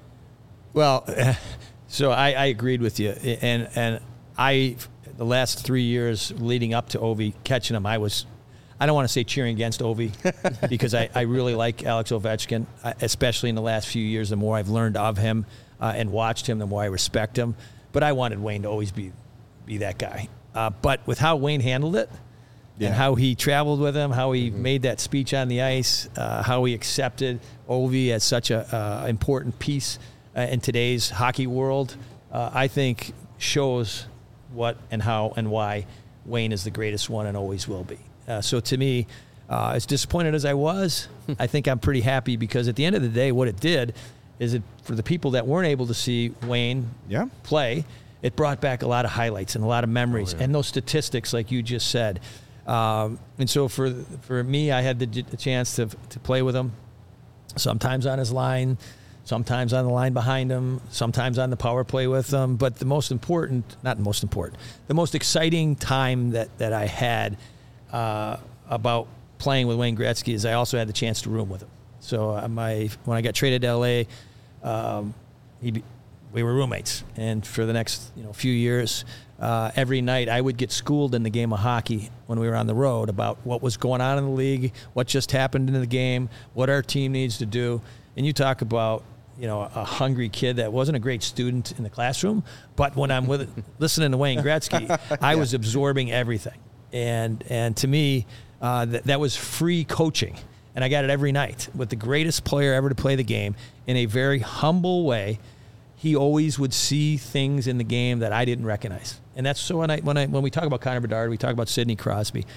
Well, so I, I agreed with you. And, and I, the last three years leading up to Ovi, catching him, I was, I don't want to say cheering against Ovi because I, I really like Alex Ovechkin, especially in the last few years. The more I've learned of him uh, and watched him, the more I respect him. But I wanted Wayne to always be be that guy. Uh, but with how Wayne handled it yeah. and how he traveled with him, how he mm-hmm. made that speech on the ice, uh, how he accepted Ovi as such a uh, important piece uh, in today's hockey world, uh, I think shows what and how and why Wayne is the greatest one and always will be. Uh, so to me, uh, as disappointed as I was, I think I'm pretty happy because at the end of the day, what it did is it for the people that weren't able to see Wayne yeah. play, it brought back a lot of highlights and a lot of memories oh, yeah. and those statistics, like you just said. Um, and so for for me, I had the, the chance to to play with him, sometimes on his line, sometimes on the line behind him, sometimes on the power play with him. But the most important, not the most important, the most exciting time that, that I had uh, about playing with Wayne Gretzky is I also had the chance to room with him. So uh, my when I got traded to L A, um, he, we were roommates. And for the next you know few years, uh, every night I would get schooled in the game of hockey when we were on the road about what was going on in the league, what just happened in the game, what our team needs to do. And you talk about you know, a hungry kid that wasn't a great student in the classroom, but when I'm with listening to Wayne Gretzky, I yeah. was absorbing everything. And and to me, uh, that, that was free coaching. And I got it every night with the greatest player ever to play the game in a very humble way. He always would see things in the game that I didn't recognize. And that's so when I when I when we talk about Connor Bedard, we talk about Sidney Crosby.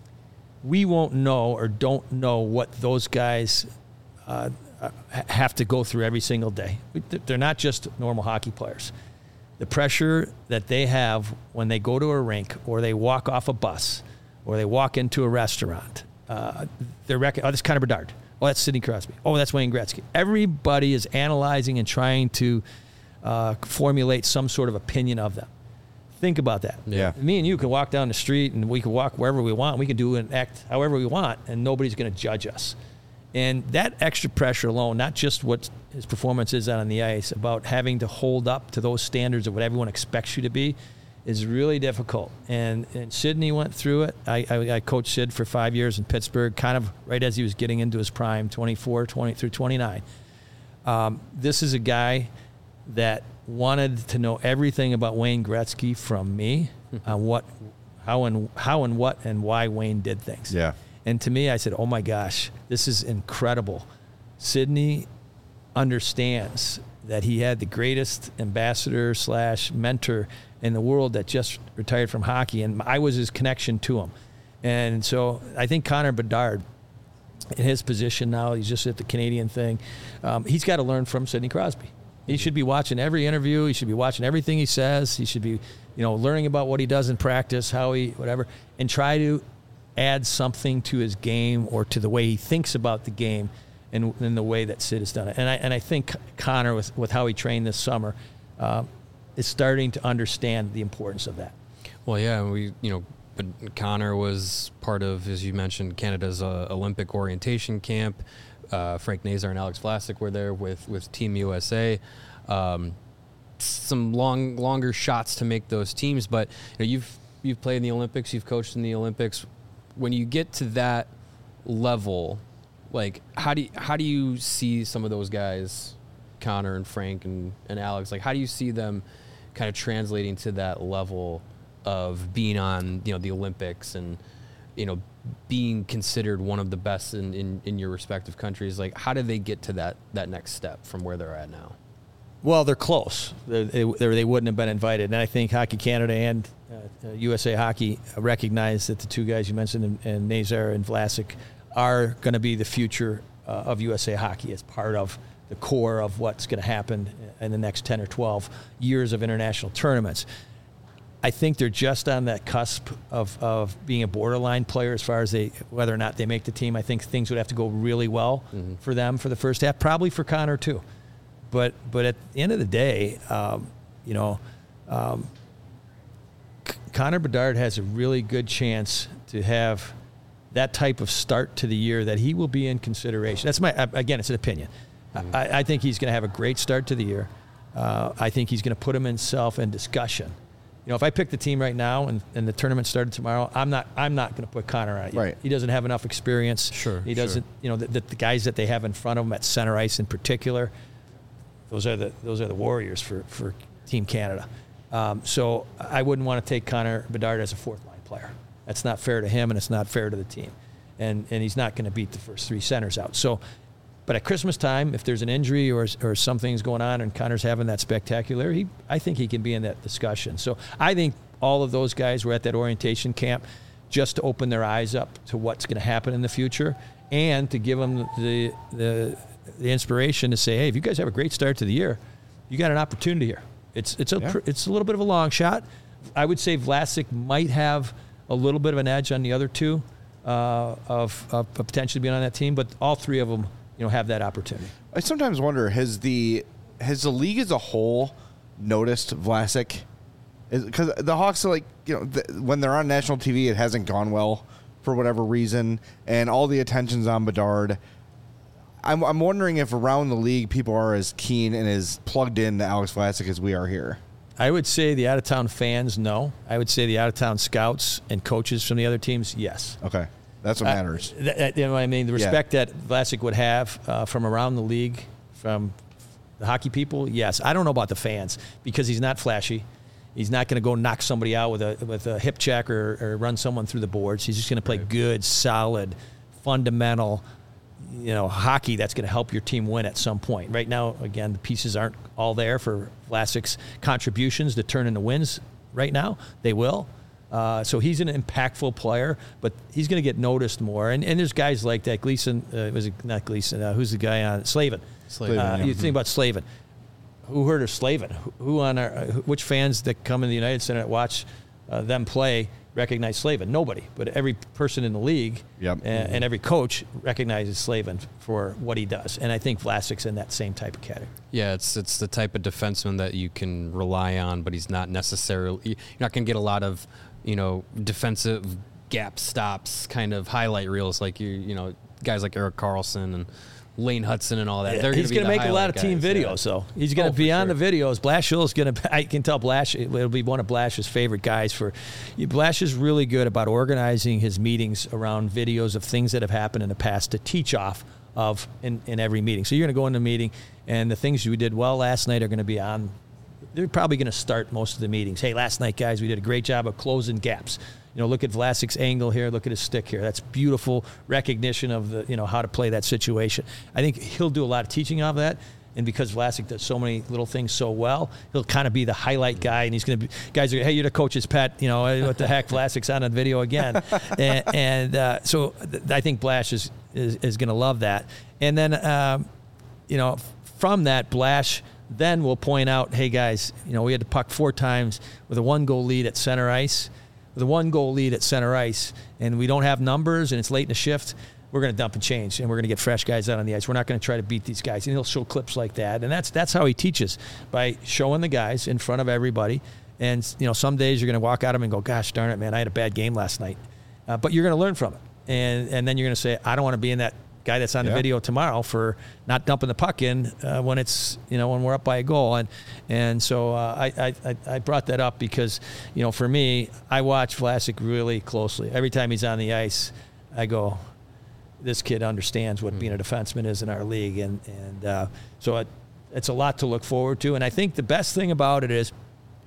We won't know or don't know what those guys uh, have to go through every single day. They're not just normal hockey players. The pressure that they have when they go to a rink or they walk off a bus or they walk into a restaurant, uh, they're rec- oh, that's Connor Bedard. Oh, that's Sidney Crosby. Oh, that's Wayne Gretzky. Everybody is analyzing and trying to uh, formulate some sort of opinion of them. Think about that. Yeah. Me and you can walk down the street and we can walk wherever we want. We can do and act however we want, and nobody's going to judge us. And that extra pressure alone, not just what his performance is on the ice, about having to hold up to those standards of what everyone expects you to be, is really difficult. And, and Sidney went through it. I, I, I coached Sid for five years in Pittsburgh, kind of right as he was getting into his prime, twenty-four, twenty through twenty-nine. Um, this is a guy that wanted to know everything about Wayne Gretzky from me, on uh, what, how and how and what and why Wayne did things. Yeah. And to me, I said, oh, my gosh, this is incredible. Sidney understands that he had the greatest ambassador slash mentor in the world that just retired from hockey, and I was his connection to him. And so I think Connor Bedard, in his position now, he's just at the Canadian thing, um, he's got to learn from Sidney Crosby. He should be watching every interview. He should be watching everything he says. He should be, you know, learning about what he does in practice, how he, whatever, and try to add something to his game or to the way he thinks about the game and in the way that Sid has done it. And I and I think Connor, with, with how he trained this summer, uh, is starting to understand the importance of that. Well, yeah, we you know, but Connor was part of, as you mentioned, Canada's uh, Olympic orientation camp. Uh, Frank Nazar and Alex Vlasic were there with, with Team U S A. Um, some long longer shots to make those teams, but you know, you've you've played in the Olympics, you've coached in the Olympics. When you get to that level, like how do you, how do you see some of those guys, Connor and Frank and, and Alex, like how do you see them kind of translating to that level of being on, you know, the Olympics and, you know, being considered one of the best in, in, in your respective countries? Like how do they get to that, that next step from where they're at now? Well, they're close. They, they, they wouldn't have been invited. And I think Hockey Canada and uh, U S A Hockey recognize that the two guys you mentioned, and, and Nazar and Vlasic, are going to be the future uh, of U S A Hockey as part of the core of what's going to happen in the next ten or twelve years of international tournaments. I think they're just on that cusp of, of being a borderline player as far as they whether or not they make the team. I think things would have to go really well mm-hmm. for them for the first half, probably for Connor too. But but at the end of the day, um, you know, um, C- Connor Bedard has a really good chance to have that type of start to the year that he will be in consideration. That's my again, it's an opinion. Mm-hmm. I, I think he's going to have a great start to the year. Uh, I think he's going to put himself in discussion. You know, if I pick the team right now and, and the tournament started tomorrow, I'm not I'm not going to put Connor on it. Right. He doesn't have enough experience. Sure. He doesn't. Sure. You know, the, the guys that they have in front of him at center ice in particular, those are the those are the warriors for for Team Canada. Um, so I wouldn't want to take Connor Bedard as a fourth line player. That's not fair to him, and it's not fair to the team. And and he's not going to beat the first three centers out. So. But at Christmas time, if there's an injury or or something's going on and Connor's having that spectacular, he I think he can be in that discussion. So I think all of those guys were at that orientation camp just to open their eyes up to what's going to happen in the future and to give them the, the the inspiration to say, hey, if you guys have a great start to the year, you got an opportunity here. It's it's a yeah. it's a little bit of a long shot. I would say Vlasic might have a little bit of an edge on the other two uh, of, of potentially being on that team, but all three of them, you know, have that opportunity. I sometimes wonder, has the has the league as a whole noticed Vlasic? Because the Hawks are like, you know, the, when they're on national T V, it hasn't gone well for whatever reason, and all the attention's on Bedard. I'm, I'm wondering if around the league people are as keen and as plugged in to Alex Vlasic as we are here. I would say the out-of-town fans, no. I would say the out-of-town scouts and coaches from the other teams, yes. Okay. That's what matters. Uh, that, you know what I mean? The respect yeah. that Vlasic would have uh, from around the league, from the hockey people, yes. I don't know about the fans because he's not flashy. He's not going to go knock somebody out with a with a hip check or, or run someone through the boards. He's just going to play right. good, solid, fundamental, you know, hockey that's going to help your team win at some point. Right now, again, the pieces aren't all there for Vlasic's contributions to turn into wins right now. They will. Uh, so he's an impactful player, but he's going to get noticed more. And and there's guys like that. Gleason, uh, was it not Gleason? Uh, who's the guy on Slavin? Slavin. Uh, yeah. You think about Slavin. Who heard of Slavin? Who on our? Which fans that come in the United Center that watch uh, them play recognize Slavin? Nobody, but every person in the league yep. and, mm-hmm. and every coach recognizes Slavin for what he does. And I think Vlasic's in that same type of category. Yeah, it's it's the type of defenseman that you can rely on, but he's not necessarily. You're not going to get a lot of, you know, defensive gap stops, kind of highlight reels like you, you know, guys like Erik Karlsson and Lane Hudson and all that. Yeah, They're he's going to make a lot of team guys, videos, yeah. though. He's going to oh, be on sure. the videos. Blashill's going to. I can tell Blash. It'll be one of Blash's favorite guys. For Blash is really good about organizing his meetings around videos of things that have happened in the past to teach off of in, in every meeting. So you're going to go in the meeting, and the things you did well last night are going to be on. They're probably going to start most of the meetings. Hey, last night, guys, we did a great job of closing gaps. You know, look at Vlasic's angle here. Look at his stick here. That's beautiful recognition of the, you know, how to play that situation. I think he'll do a lot of teaching of that. And because Vlasic does so many little things so well, he'll kind of be the highlight guy. And he's going to be, guys are, hey, you're the coach's pet. You know, what the heck, Vlasic's on the video again. and and uh, so th- I think Blash is, is, is going to love that. And then, um, you know, from that, Blash then will point out, hey, guys, you know, we had the puck four times with a one-goal lead at center ice. With a one-goal lead at center ice, and we don't have numbers, and it's late in the shift, we're going to dump and change, and we're going to get fresh guys out on the ice. We're not going to try to beat these guys. And he'll show clips like that, and that's that's how he teaches, by showing the guys in front of everybody. And, you know, some days you're going to walk out of them and go, gosh, darn it, man, I had a bad game last night. Uh, but you're going to learn from it. And and then you're going to say, I don't want to be in that guy that's on the yeah. video tomorrow for not dumping the puck in uh, when it's, you know, when we're up by a goal. And and so uh, I, I I brought that up because, you know, for me, I watch Vlasic really closely. Every time he's on the ice, I go, this kid understands what mm-hmm. being a defenseman is in our league. And, and uh, so it, it's a lot to look forward to. And I think the best thing about it is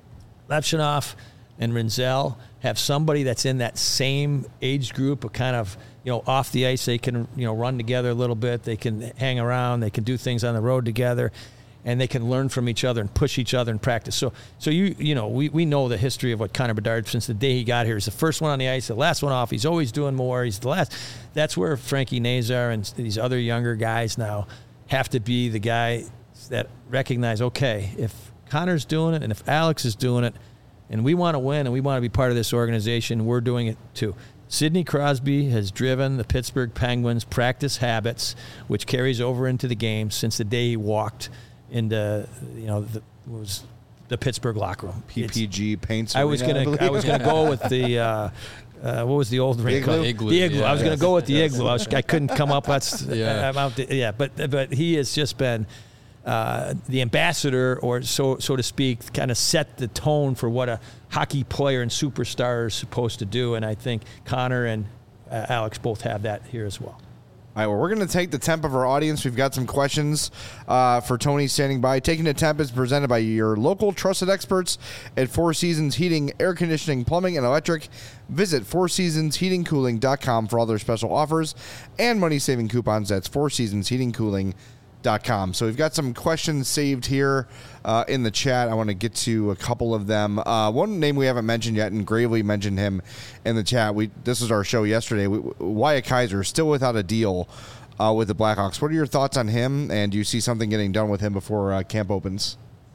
Levshunov and Rinzel have somebody that's in that same age group, a kind of, you know, off the ice, they can, you know, run together a little bit. They can hang around. They can do things on the road together, and they can learn from each other and push each other in practice. So, so you, you know, we, we know the history of what Connor Bedard since the day he got here. He's the first one on the ice, the last one off. He's always doing more. He's the last. That's where Frankie Nazar and these other younger guys now have to be the guy that recognize, okay, if Connor's doing it and if Alex is doing it and we want to win and we want to be part of this organization, we're doing it too. Sidney Crosby has driven the Pittsburgh Penguins' practice habits, which carries over into the game since the day he walked into, you know, the was the Pittsburgh locker room. P P G it's, Paints. I was Arena, gonna, I, I was gonna go with the, uh, uh, what was the old rink Igloo? called? Igloo, The igloo. yeah. I was gonna Yes. go with the Yes. igloo. I, was, I couldn't come up. That's Yeah. I'm out to, yeah. But but he has just been. Uh, the ambassador, or so so to speak, kind of set the tone for what a hockey player and superstar is supposed to do, and I think Connor and uh, Alex both have that here as well. All right, well, we're going to take the temp of our audience. We've got some questions uh, for Tony standing by. Taking the temp is presented by your local trusted experts at Four Seasons Heating, Air Conditioning, Plumbing, and Electric. Visit four seasons heating cooling dot com for all their special offers and money-saving coupons. That's four seasons heating cooling dot com. So we've got some questions saved here uh, in the chat. I want to get to a couple of them. Uh, one name we haven't mentioned yet, and Gravely mentioned him in the chat. We This was our show yesterday. We, Wyatt Kaiser still without a deal uh, with the Blackhawks. What are your thoughts on him, and do you see something getting done with him before uh, camp opens?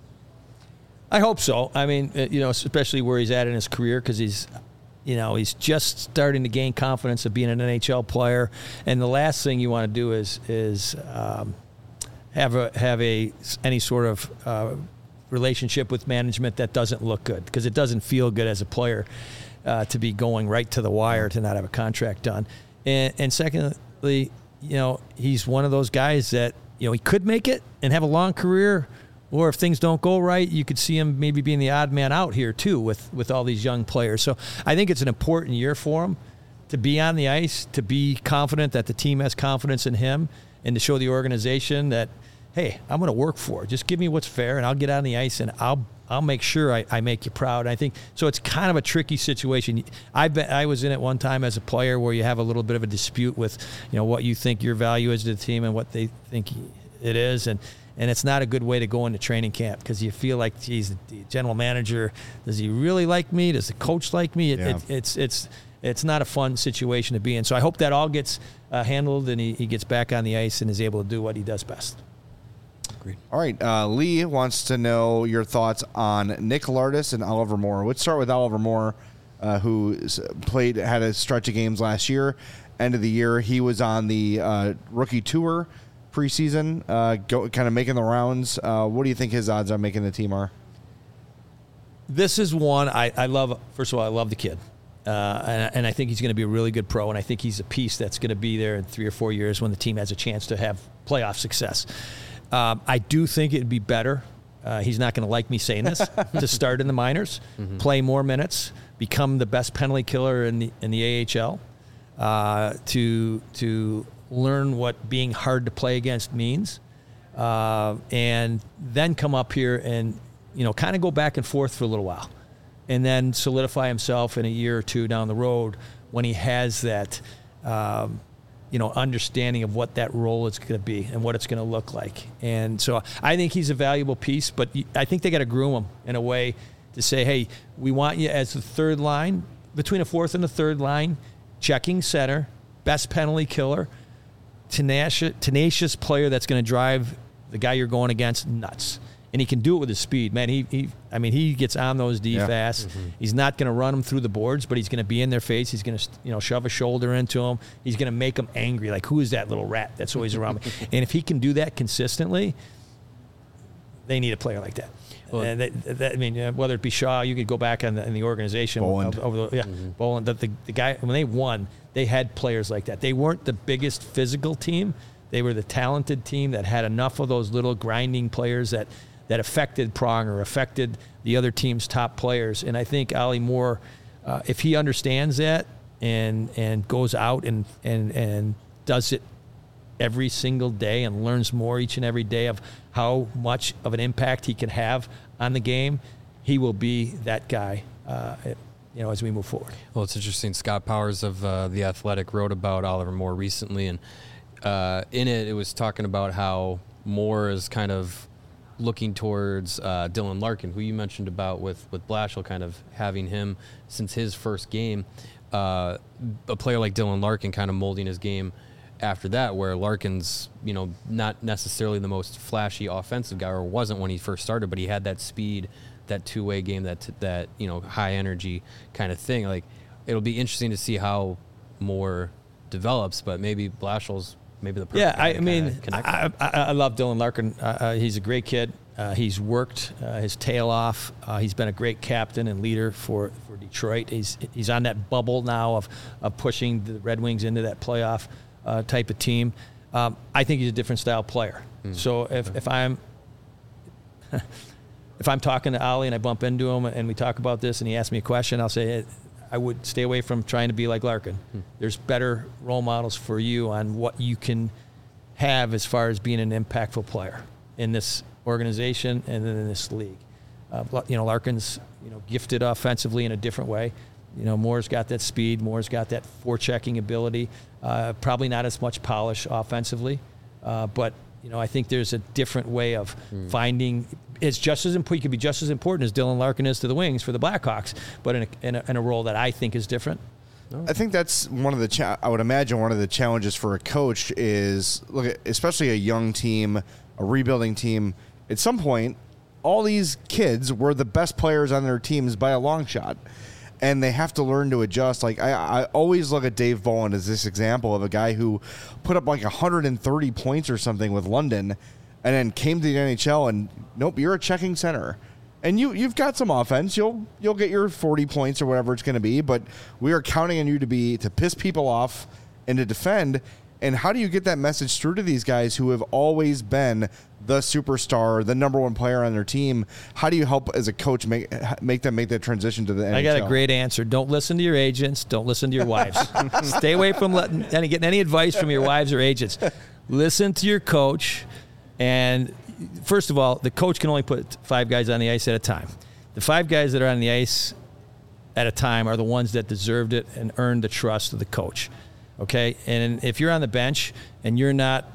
I hope so. I mean, uh, you know, especially where he's at in his career, because he's, you know, he's just starting to gain confidence of being an N H L player. And the last thing you want to do is is um, have a have a any sort of uh, relationship with management that doesn't look good, because it doesn't feel good as a player uh, to be going right to the wire to not have a contract done. And, and secondly, you know, he's one of those guys that, you know, he could make it and have a long career, or if things don't go right, you could see him maybe being the odd man out here too with, with all these young players. So I think it's an important year for him to be on the ice, to be confident that the team has confidence in him, and to show the organization that, hey, I'm going to work for it. Just give me what's fair, and I'll get on the ice, and I'll I'll make sure I, I make you proud. And I think so. It's kind of a tricky situation. I bet I was in it one time as a player where you have a little bit of a dispute with, you know, what you think your value is to the team and what they think it is, and and it's not a good way to go into training camp, because you feel like, geez, the general manager, does he really like me? Does the coach like me? It, Yeah. it, it's it's it's not a fun situation to be in. So I hope that all gets uh, handled, and he, he gets back on the ice and is able to do what he does best. Agreed. All right, uh, Lee wants to know your thoughts on Nick Lardis and Oliver Moore. Let's start with Oliver Moore, uh, who played, had a stretch of games last year. End of the year, he was on the uh, rookie tour preseason, uh, go, kind of making the rounds. Uh, what do you think his odds on making the team are? This is one I, I love. First of all, I love the kid. Uh, and, and I think he's going to be a really good pro, and I think he's a piece that's going to be there in three or four years when the team has a chance to have playoff success. Um, I do think it'd be better. Uh, he's not going to like me saying this to start in the minors, mm-hmm. play more minutes, become the best penalty killer in the in the A H L, uh, to to learn what being hard to play against means, uh, and then come up here and, you know, kind of go back and forth for a little while, and then solidify himself in a year or two down the road when he has that. Um, you know, understanding of what that role is going to be and what it's going to look like. And so I think he's a valuable piece, but I think they got to groom him in a way to say, hey, we want you as the third line, between a fourth and a third line, checking center, best penalty killer, tenacious, tenacious player that's going to drive the guy you're going against nuts. And he can do it with his speed, man. He, he I mean, he gets on those D Yeah. fast. Mm-hmm. He's not going to run them through the boards, but he's going to be in their face. He's going to, you know, shove a shoulder into them. He's going to make them angry. Like, who is that little rat that's always around me? And if he can do that consistently, they need a player like that. Well, and that, that, I mean, uh, whether it be Shaw, you could go back in the, in the organization. Boland. Over the, yeah, Mm-hmm. Boland. That the, the guy, when they won, they had players like that. They weren't the biggest physical team. They were the talented team that had enough of those little grinding players that – that affected Pronger, affected the other team's top players. And I think Ollie Moore, uh, if he understands that and and goes out and, and, and does it every single day and learns more each and every day of how much of an impact he can have on the game, he will be that guy, uh, you know, as we move forward. Well, it's interesting. Scott Powers of uh, The Athletic wrote about Oliver Moore recently, and uh, in it, it was talking about how Moore is kind of looking towards uh, Dylan Larkin, who you mentioned about with, with Blashill, kind of having him since his first game. Uh, a player like Dylan Larkin kind of molding his game after that, where Larkin's, you know, not necessarily the most flashy offensive guy, or wasn't when he first started, but he had that speed, that two-way game, that that you know high energy kind of thing. Like, it'll be interesting to see how more develops, but maybe Blashill's maybe the perfect yeah. I, guy I mean, to I, I, I love Dylan Larkin. Uh, uh, he's a great kid. Uh, he's worked uh, his tail off. Uh, he's been a great captain and leader for, for Detroit. He's he's on that bubble now of of pushing the Red Wings into that playoff uh, type of team. Um, I think he's a different style player. Mm. So if, if I'm if I'm talking to Ollie and I bump into him and we talk about this and he asks me a question, I'll say I would stay away from trying to be like Larkin. Mm. There's better role models for you on what you can have as far as being an impactful player in this organization and then in this league. Uh, you know, Larkin's, you know, gifted offensively in a different way. You know, Moore's got that speed. Moore's got that forechecking ability. Uh, probably not as much polish offensively, uh, but you know, I think there's a different way of mm. finding. It's just as important. He could be just as important as Dylan Larkin is to the Wings for the Blackhawks, but in a, in a, in a role that I think is different. I think that's one of the. Cha- I would imagine one of the challenges for a coach is look, at, especially a young team, a rebuilding team. At some point, all these kids were the best players on their teams by a long shot, and they have to learn to adjust. Like I, I always look at Dave Bowen as this example of a guy who put up like one hundred thirty points or something with London, and then came to the N H L and nope, you're a checking center, and you you've got some offense. You'll you'll get your forty points or whatever it's going to be, but we are counting on you to be to piss people off and to defend. And how do you get that message through to these guys who have always been the superstar, the number one player on their team? How do you help as a coach make make them make that transition to the N H L? I got a great answer. Don't listen to your agents. Don't listen to your wives. Stay away from letting any getting any advice from your wives or agents. Listen to your coach. And first of all, the coach can only put five guys on the ice at a time. The five guys that are on the ice at a time are the ones that deserved it and earned the trust of the coach. Okay, and if you're on the bench and you're not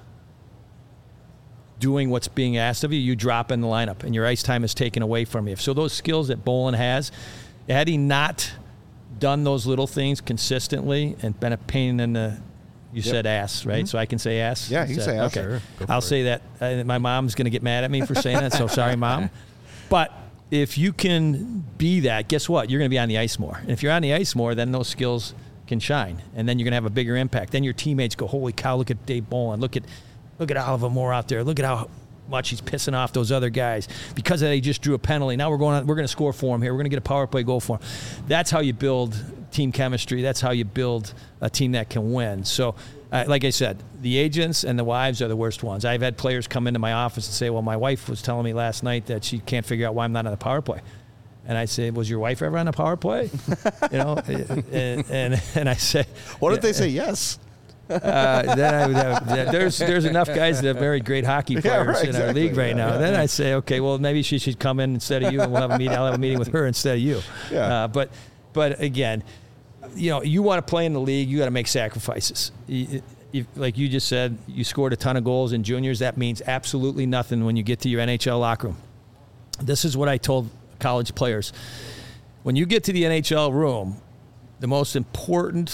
doing what's being asked of you, you drop in the lineup and your ice time is taken away from you. So those skills that Bolin has, had he not done those little things consistently and been a pain in the, you yep. said ass, right? Mm-hmm. So I can say ass? Yeah, you can say ass. Okay, sure. I'll it. say that. Uh, my mom's going to get mad at me for saying that, so sorry, Mom. But if you can be that, guess what? You're going to be on the ice more. And if you're on the ice more, then those skills can shine, and then you're going to have a bigger impact. Then your teammates go, holy cow, look at Dave Bolin. Look at look at Oliver Moore out there. Look at how much he's pissing off those other guys. Because of that, he just drew a penalty. Now we're going on, we're going to score for him here. We're going to get a power play goal for him. That's how you build team chemistry. That's how you build a team that can win. So, uh, like I said, the agents and the wives are the worst ones. I've had players come into my office and say, well, my wife was telling me last night that she can't figure out why I'm not on the power play. And I say, was your wife ever on a power play? You know, and, and and I say, what if they say yes? Uh, then I would have, there's there's enough guys that have very great hockey players yeah, right, in exactly. our league right now. Yeah. Then I say, okay, well maybe she should come in instead of you, and we'll have a meeting. I'll have a meeting with her instead of you. Yeah. Uh, but but again, you know, you want to play in the league, you got to make sacrifices. You, you, like you just said, you scored a ton of goals in juniors. That means absolutely nothing when you get to your N H L locker room. This is what I told college players. When you get to the N H L room, the most important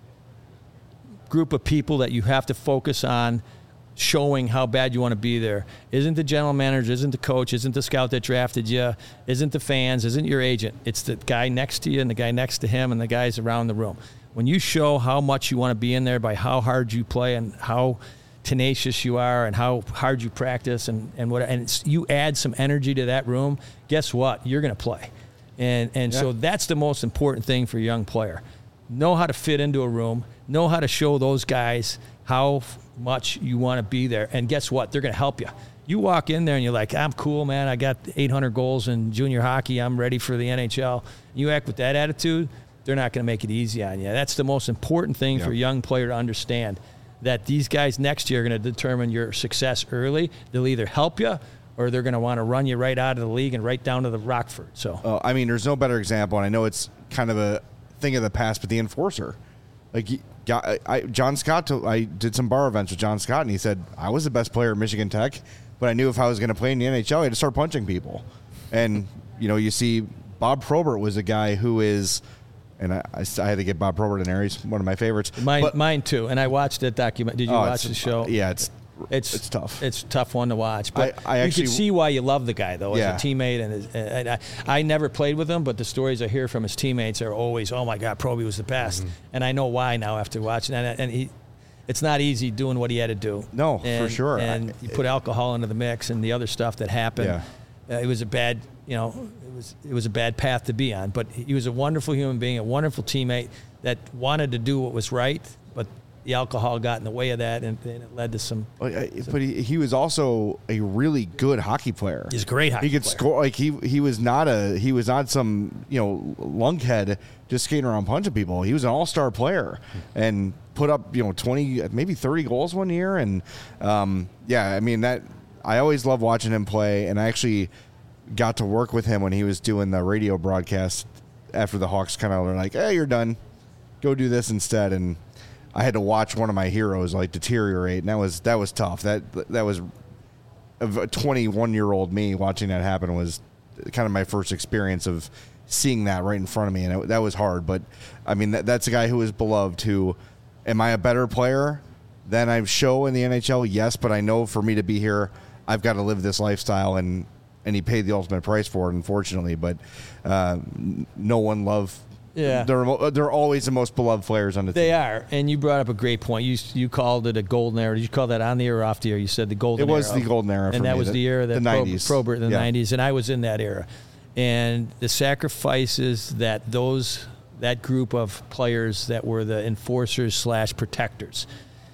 group of people that you have to focus on showing how bad you want to be there isn't the general manager, isn't the coach, isn't the scout that drafted you, isn't the fans, isn't your agent. It's the guy next to you and the guy next to him and the guys around the room. When you show how much you want to be in there by how hard you play and how tenacious you are and how hard you practice and, and what and it's, you add some energy to that room, guess what? You're going to play. And and yeah. so that's the most important thing for a young player. Know how to fit into a room, know how to show those guys how much you want to be there. And guess what? They're going to help you. You walk in there and you're like, I'm cool, man. I got eight hundred goals in junior hockey. I'm ready for the N H L. You act with that attitude, they're not going to make it easy on you. That's the most important thing yeah. for a young player to understand. That these guys next year are going to determine your success early. They'll either help you or they're going to want to run you right out of the league and right down to the Rockford. So, uh, I mean, there's no better example, and I know it's kind of a thing of the past, but the enforcer. Like, I, I, John Scott, I did some bar events with John Scott, and he said, I was the best player at Michigan Tech, but I knew if I was going to play in the N H L, I had to start punching people. And, you know, you see Bob Probert was a guy who is And I, I, I had to get Bob Probert in there. He's one of my favorites. Mine, but, mine too. And I watched that document. Did you oh, watch the show? Yeah, it's It's it's tough. It's a tough one to watch. But I, I you actually, can see why you love the guy, though, yeah. as a teammate. And, his, and I, I never played with him, but the stories I hear from his teammates are always, "Oh my God, Proby was the best." Mm-hmm. And I know why now after watching. And, and he, it's not easy doing what he had to do. No, and, for sure. And I, you put alcohol into the mix and the other stuff that happened. Yeah. Uh, it was a bad, you know, it was it was a bad path to be on. But he was a wonderful human being, a wonderful teammate that wanted to do what was right, but the alcohol got in the way of that, and, and it led to some. But he, he was also a really good hockey player. He's a great hockey player. He could player. score. Like he he was not a he was not some you know lunkhead just skating around punching people. He was an all star player and put up you know twenty maybe thirty goals one year. And um, yeah, I mean that I always loved watching him play, and I actually got to work with him when he was doing the radio broadcast after the Hawks kind of were like, "Hey, you're done. Go do this instead." And I had to watch one of my heroes like deteriorate, and that was that was tough. That that was a twenty-one-year-old me watching that happen was kind of my first experience of seeing that right in front of me, and it, that was hard. But I mean, that, that's a guy who is beloved. Who, am I a better player than I show in the N H L? Yes, but I know for me to be here, I've got to live this lifestyle, and and he paid the ultimate price for it, unfortunately. But uh, no one loved. Yeah, they're they're always the most beloved players on the they team. They are, and you brought up a great point. You you called it a golden era. Did you call that on the air or off the air? You said the golden. It was era. the golden era, for and that me, was the, the era that the nineties, Probert in the yeah. nineties, and I was in that era. And the sacrifices that those that group of players that were the enforcers slash protectors,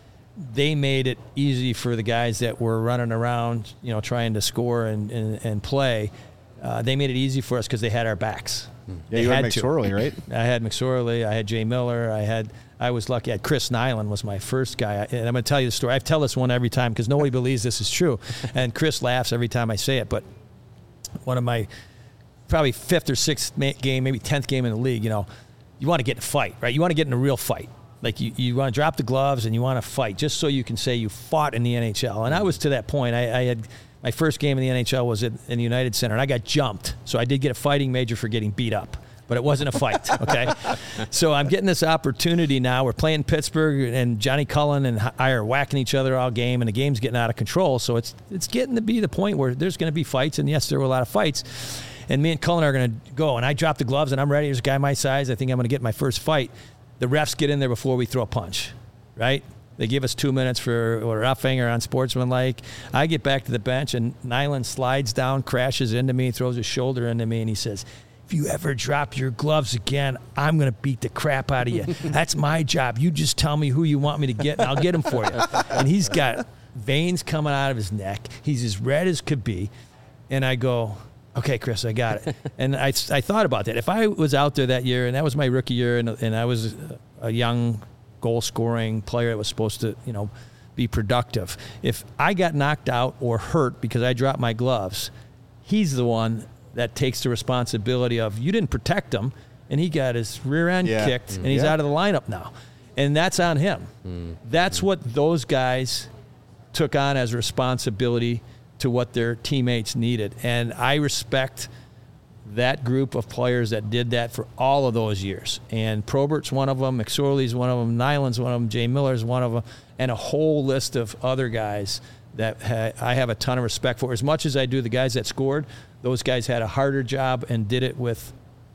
they made it easy for the guys that were running around, you know, trying to score and and, and play. Uh, they made it easy for us because they had our backs. Yeah, they you had, had McSorley, right? I had McSorley. I had Jay Miller. I had. I was lucky. I had Chris Nyland was my first guy. And I'm going to tell you the story. I tell this one every time because nobody believes this is true, and Chris laughs every time I say it. But one of my probably fifth or sixth game, maybe tenth game in the league. You know, you want to get in a fight, right? You want to get in a real fight. Like you, you want to drop the gloves and you want to fight just so you can say you fought in the N H L. And I was to that point. I, I had. My first game in the N H L was in, in the United Center, and I got jumped. So I did get a fighting major for getting beat up, but it wasn't a fight, okay? So I'm getting this opportunity now. We're playing Pittsburgh, and Johnny Cullen and I are whacking each other all game, and the game's getting out of control. So it's it's getting to be the point where there's going to be fights, and yes, there were a lot of fights. And me and Cullen are going to go, and I drop the gloves, and I'm ready. There's a guy my size. I think I'm going to get my first fight. The refs get in there before we throw a punch, right? They give us two minutes for roughing or unsportsmanlike. I get back to the bench, and Nyland slides down, crashes into me, throws his shoulder into me, and he says, "If you ever drop your gloves again, I'm going to beat the crap out of you. That's my job. You just tell me who you want me to get, and I'll get him for you." And he's got veins coming out of his neck. He's as red as could be. And I go, "Okay, Chris, I got it." And I, I thought about that. If I was out there that year, and that was my rookie year, and, and I was a young goal-scoring player that was supposed to, you know, be productive. If I got knocked out or hurt because I dropped my gloves, he's the one that takes the responsibility of, you didn't protect him, and he got his rear end yeah. kicked, mm. and he's yeah. out of the lineup now. And that's on him. Mm. That's mm. what those guys took on as responsibility to what their teammates needed. And I respect that group of players that did that for all of those years. And Probert's one of them, McSorley's one of them, Nyland's one of them, Jay Miller's one of them, and a whole list of other guys that ha- I have a ton of respect for. As much as I do the guys that scored, those guys had a harder job and did it with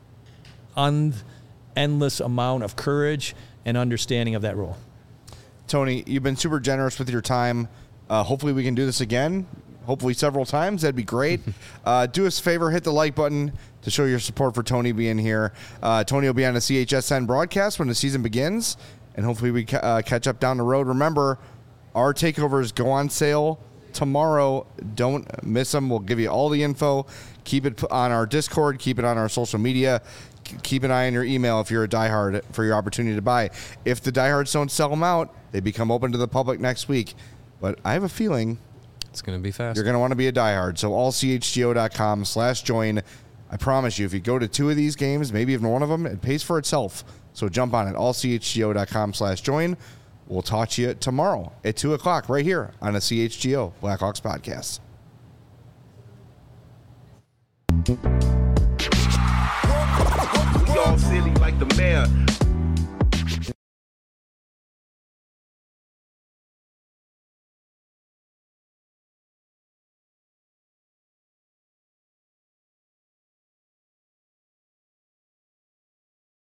un- endless amount of courage and understanding of that role. Tony, you've been super generous with your time. Uh, hopefully we can do this again. Hopefully several times. That'd be great. Uh, do us a favor, hit the like button to show your support for Tony being here. Uh, Tony will be on the C H S N broadcast when the season begins, and hopefully we ca- uh, catch up down the road. Remember, our takeovers go on sale tomorrow. Don't miss them. We'll give you all the info. Keep it on our Discord. Keep it on our social media. Keep an eye on your email if you're a diehard for your opportunity to buy. If the diehards don't sell them out, they become open to the public next week. But I have a feeling it's going to be fast. You're going to want to be a diehard. So all C H G O dot com slash join. I promise you, if you go to two of these games, maybe even one of them, it pays for itself. So jump on it. all C H G O dot com slash join. We'll talk to you tomorrow at two o'clock right here on a C H G O Blackhawks podcast. We all silly like the the mayor.